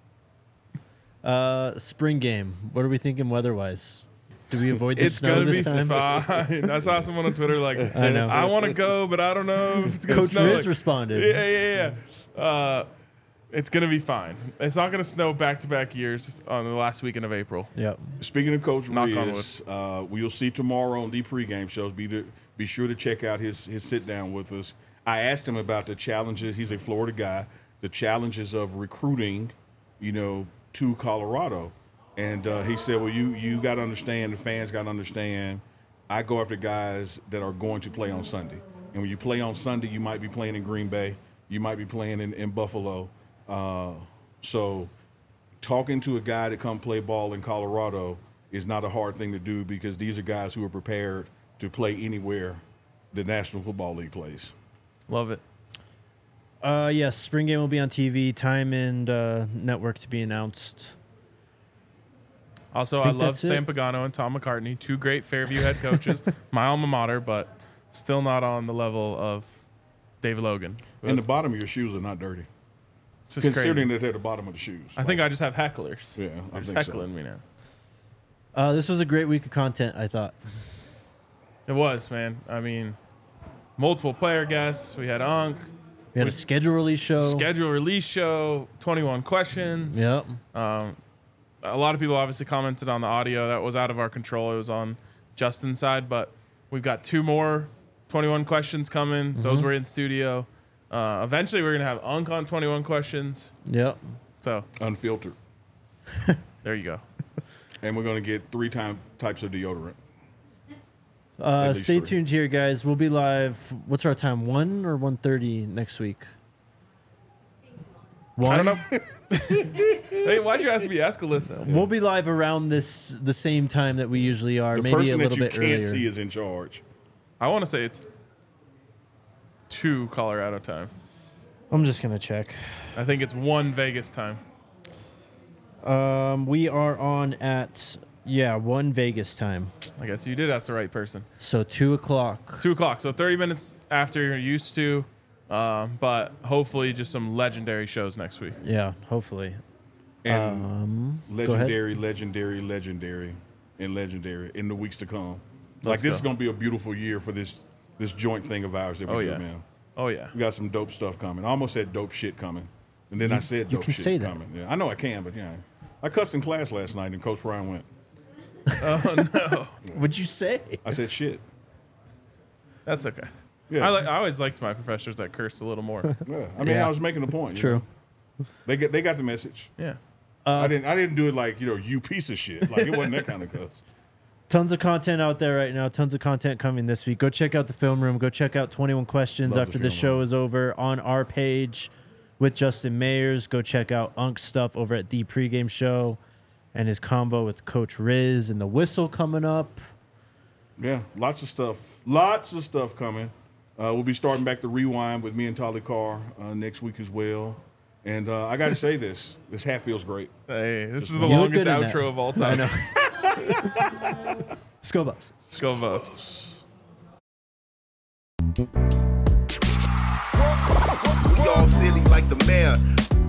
A: Uh, spring game. What are we thinking weather-wise? Do we avoid the
B: It's
A: snow
B: gonna
A: this
B: be
A: time?
B: fine. I saw someone on Twitter like,
A: I know.
B: I want to go, but I don't know if it's gonna
A: Coach
B: snow.
A: Riz
B: Like,
A: responded.
B: yeah, yeah, yeah. Uh, it's gonna be fine. It's not gonna snow back-to-back years on the last weekend of April.
A: Yep.
C: Speaking of Coach
B: Knock on
C: Riz, uh, we'll see tomorrow on the pregame shows. Be to, be sure to check out his his sit down with us. I asked him about the challenges. He's a Florida guy. The challenges of recruiting, you know, to Colorado, and uh, he said, "Well, you you got to understand. The fans got to understand. I go after guys that are going to play on Sunday, and when you play on Sunday, you might be playing in Green Bay, you might be playing in, in Buffalo. Uh, so, talking to a guy to come play ball in Colorado is not a hard thing to do because these are guys who are prepared to play anywhere the National Football League plays."
B: Love it.
A: Uh, yes, spring game will be on T V. Time and uh, network to be announced.
B: Also, I,
A: think
B: love
A: that's it.
B: Sam Pagano and Tom McCartney, two great Fairview head coaches. My alma mater, but still not on the level of David Logan.
C: And the bottom of your shoes are not dirty,
B: It's just
C: considering
B: crazy.
C: that they're the bottom of the shoes.
B: I think I just have hecklers.
C: Yeah, I
B: They're just
C: think so.
B: heckling me now.
A: Uh, this was a great week of content, I thought.
B: It was, man. I mean, multiple player guests. We had Unk.
A: We had a schedule release show.
B: Schedule release show, twenty-one questions.
A: Yep.
B: Um, a lot of people obviously commented on the audio. That was out of our control. It was on Justin's side, but we've got two more twenty-one questions coming.
A: Mm-hmm.
B: Those were in studio. Uh, eventually, we're going to have Unk on twenty-one questions.
A: Yep.
B: So
C: Unfiltered.
B: there you go.
C: And we're going to get three time types of deodorant.
A: Uh,
C: At least
A: stay
C: three.
A: tuned here, guys. We'll be live. What's our time? One or one thirty next week? One.
B: I don't know. Hey, why'd you ask me? Ask Alyssa.
A: We'll be live around this the same time that we usually are,
C: The
A: maybe a
C: person
A: little
C: that you
A: bit
C: can't
A: earlier.
C: see is in charge.
B: I want to say it's two Colorado time.
A: I'm just gonna check.
B: I think it's one Vegas time.
A: Um, we are on at yeah one Vegas time,
B: I guess you did ask the right person.
A: so two o'clock.
B: Two o'clock, so thirty minutes after you're used to, um, but hopefully just some legendary shows next week.
A: Yeah, hopefully.
C: And
A: Um, go ahead.
C: legendary, legendary, legendary, and legendary in the weeks to come. Like
B: Let's
C: this
B: go.
C: is going to be a beautiful year for this this joint thing of ours that we
B: Oh,
C: do,
B: yeah.
C: man.
B: Oh yeah,
C: We got some dope stuff coming. I almost said dope shit coming, and then I said
A: you
C: dope
A: can
C: shit
A: say that.
C: coming. Yeah, I know I can, but yeah, I cussed in class last night, and Coach Brian went.
A: What'd you say?
C: I said shit.
B: that's okay.
C: Yeah,
B: I, li- I always liked my professors that cursed a little more.
C: yeah. I mean,
A: Yeah.
C: I was making a point. you
A: True.
C: know. They get they got the message.
B: Yeah.
C: I didn't I didn't do it like you know you piece of shit. Like it wasn't that kind of cuss.
A: Tons of content out there right now. Tons of content coming this week. Go check out the film room. Go check out twenty-one questions
C: Love the
A: after the
C: film
A: show
C: room.
A: is over on our page with Justin Mayers. Go check out Unk's stuff over at the pregame show. and his combo with Coach Riz and the whistle coming up.
C: Yeah, lots of stuff. Lots of stuff coming. Uh, we'll be starting back the rewind with me and Tolly Carr uh, next week as well. And uh, I got to say this. This hat feels great.
B: Hey, this is the
A: You look
B: longest
A: good in that.
B: outro of all
A: I
B: time.
A: know. Let's go, Bucks.
B: Let's go, Bucks.
F: We all silly like the mayor.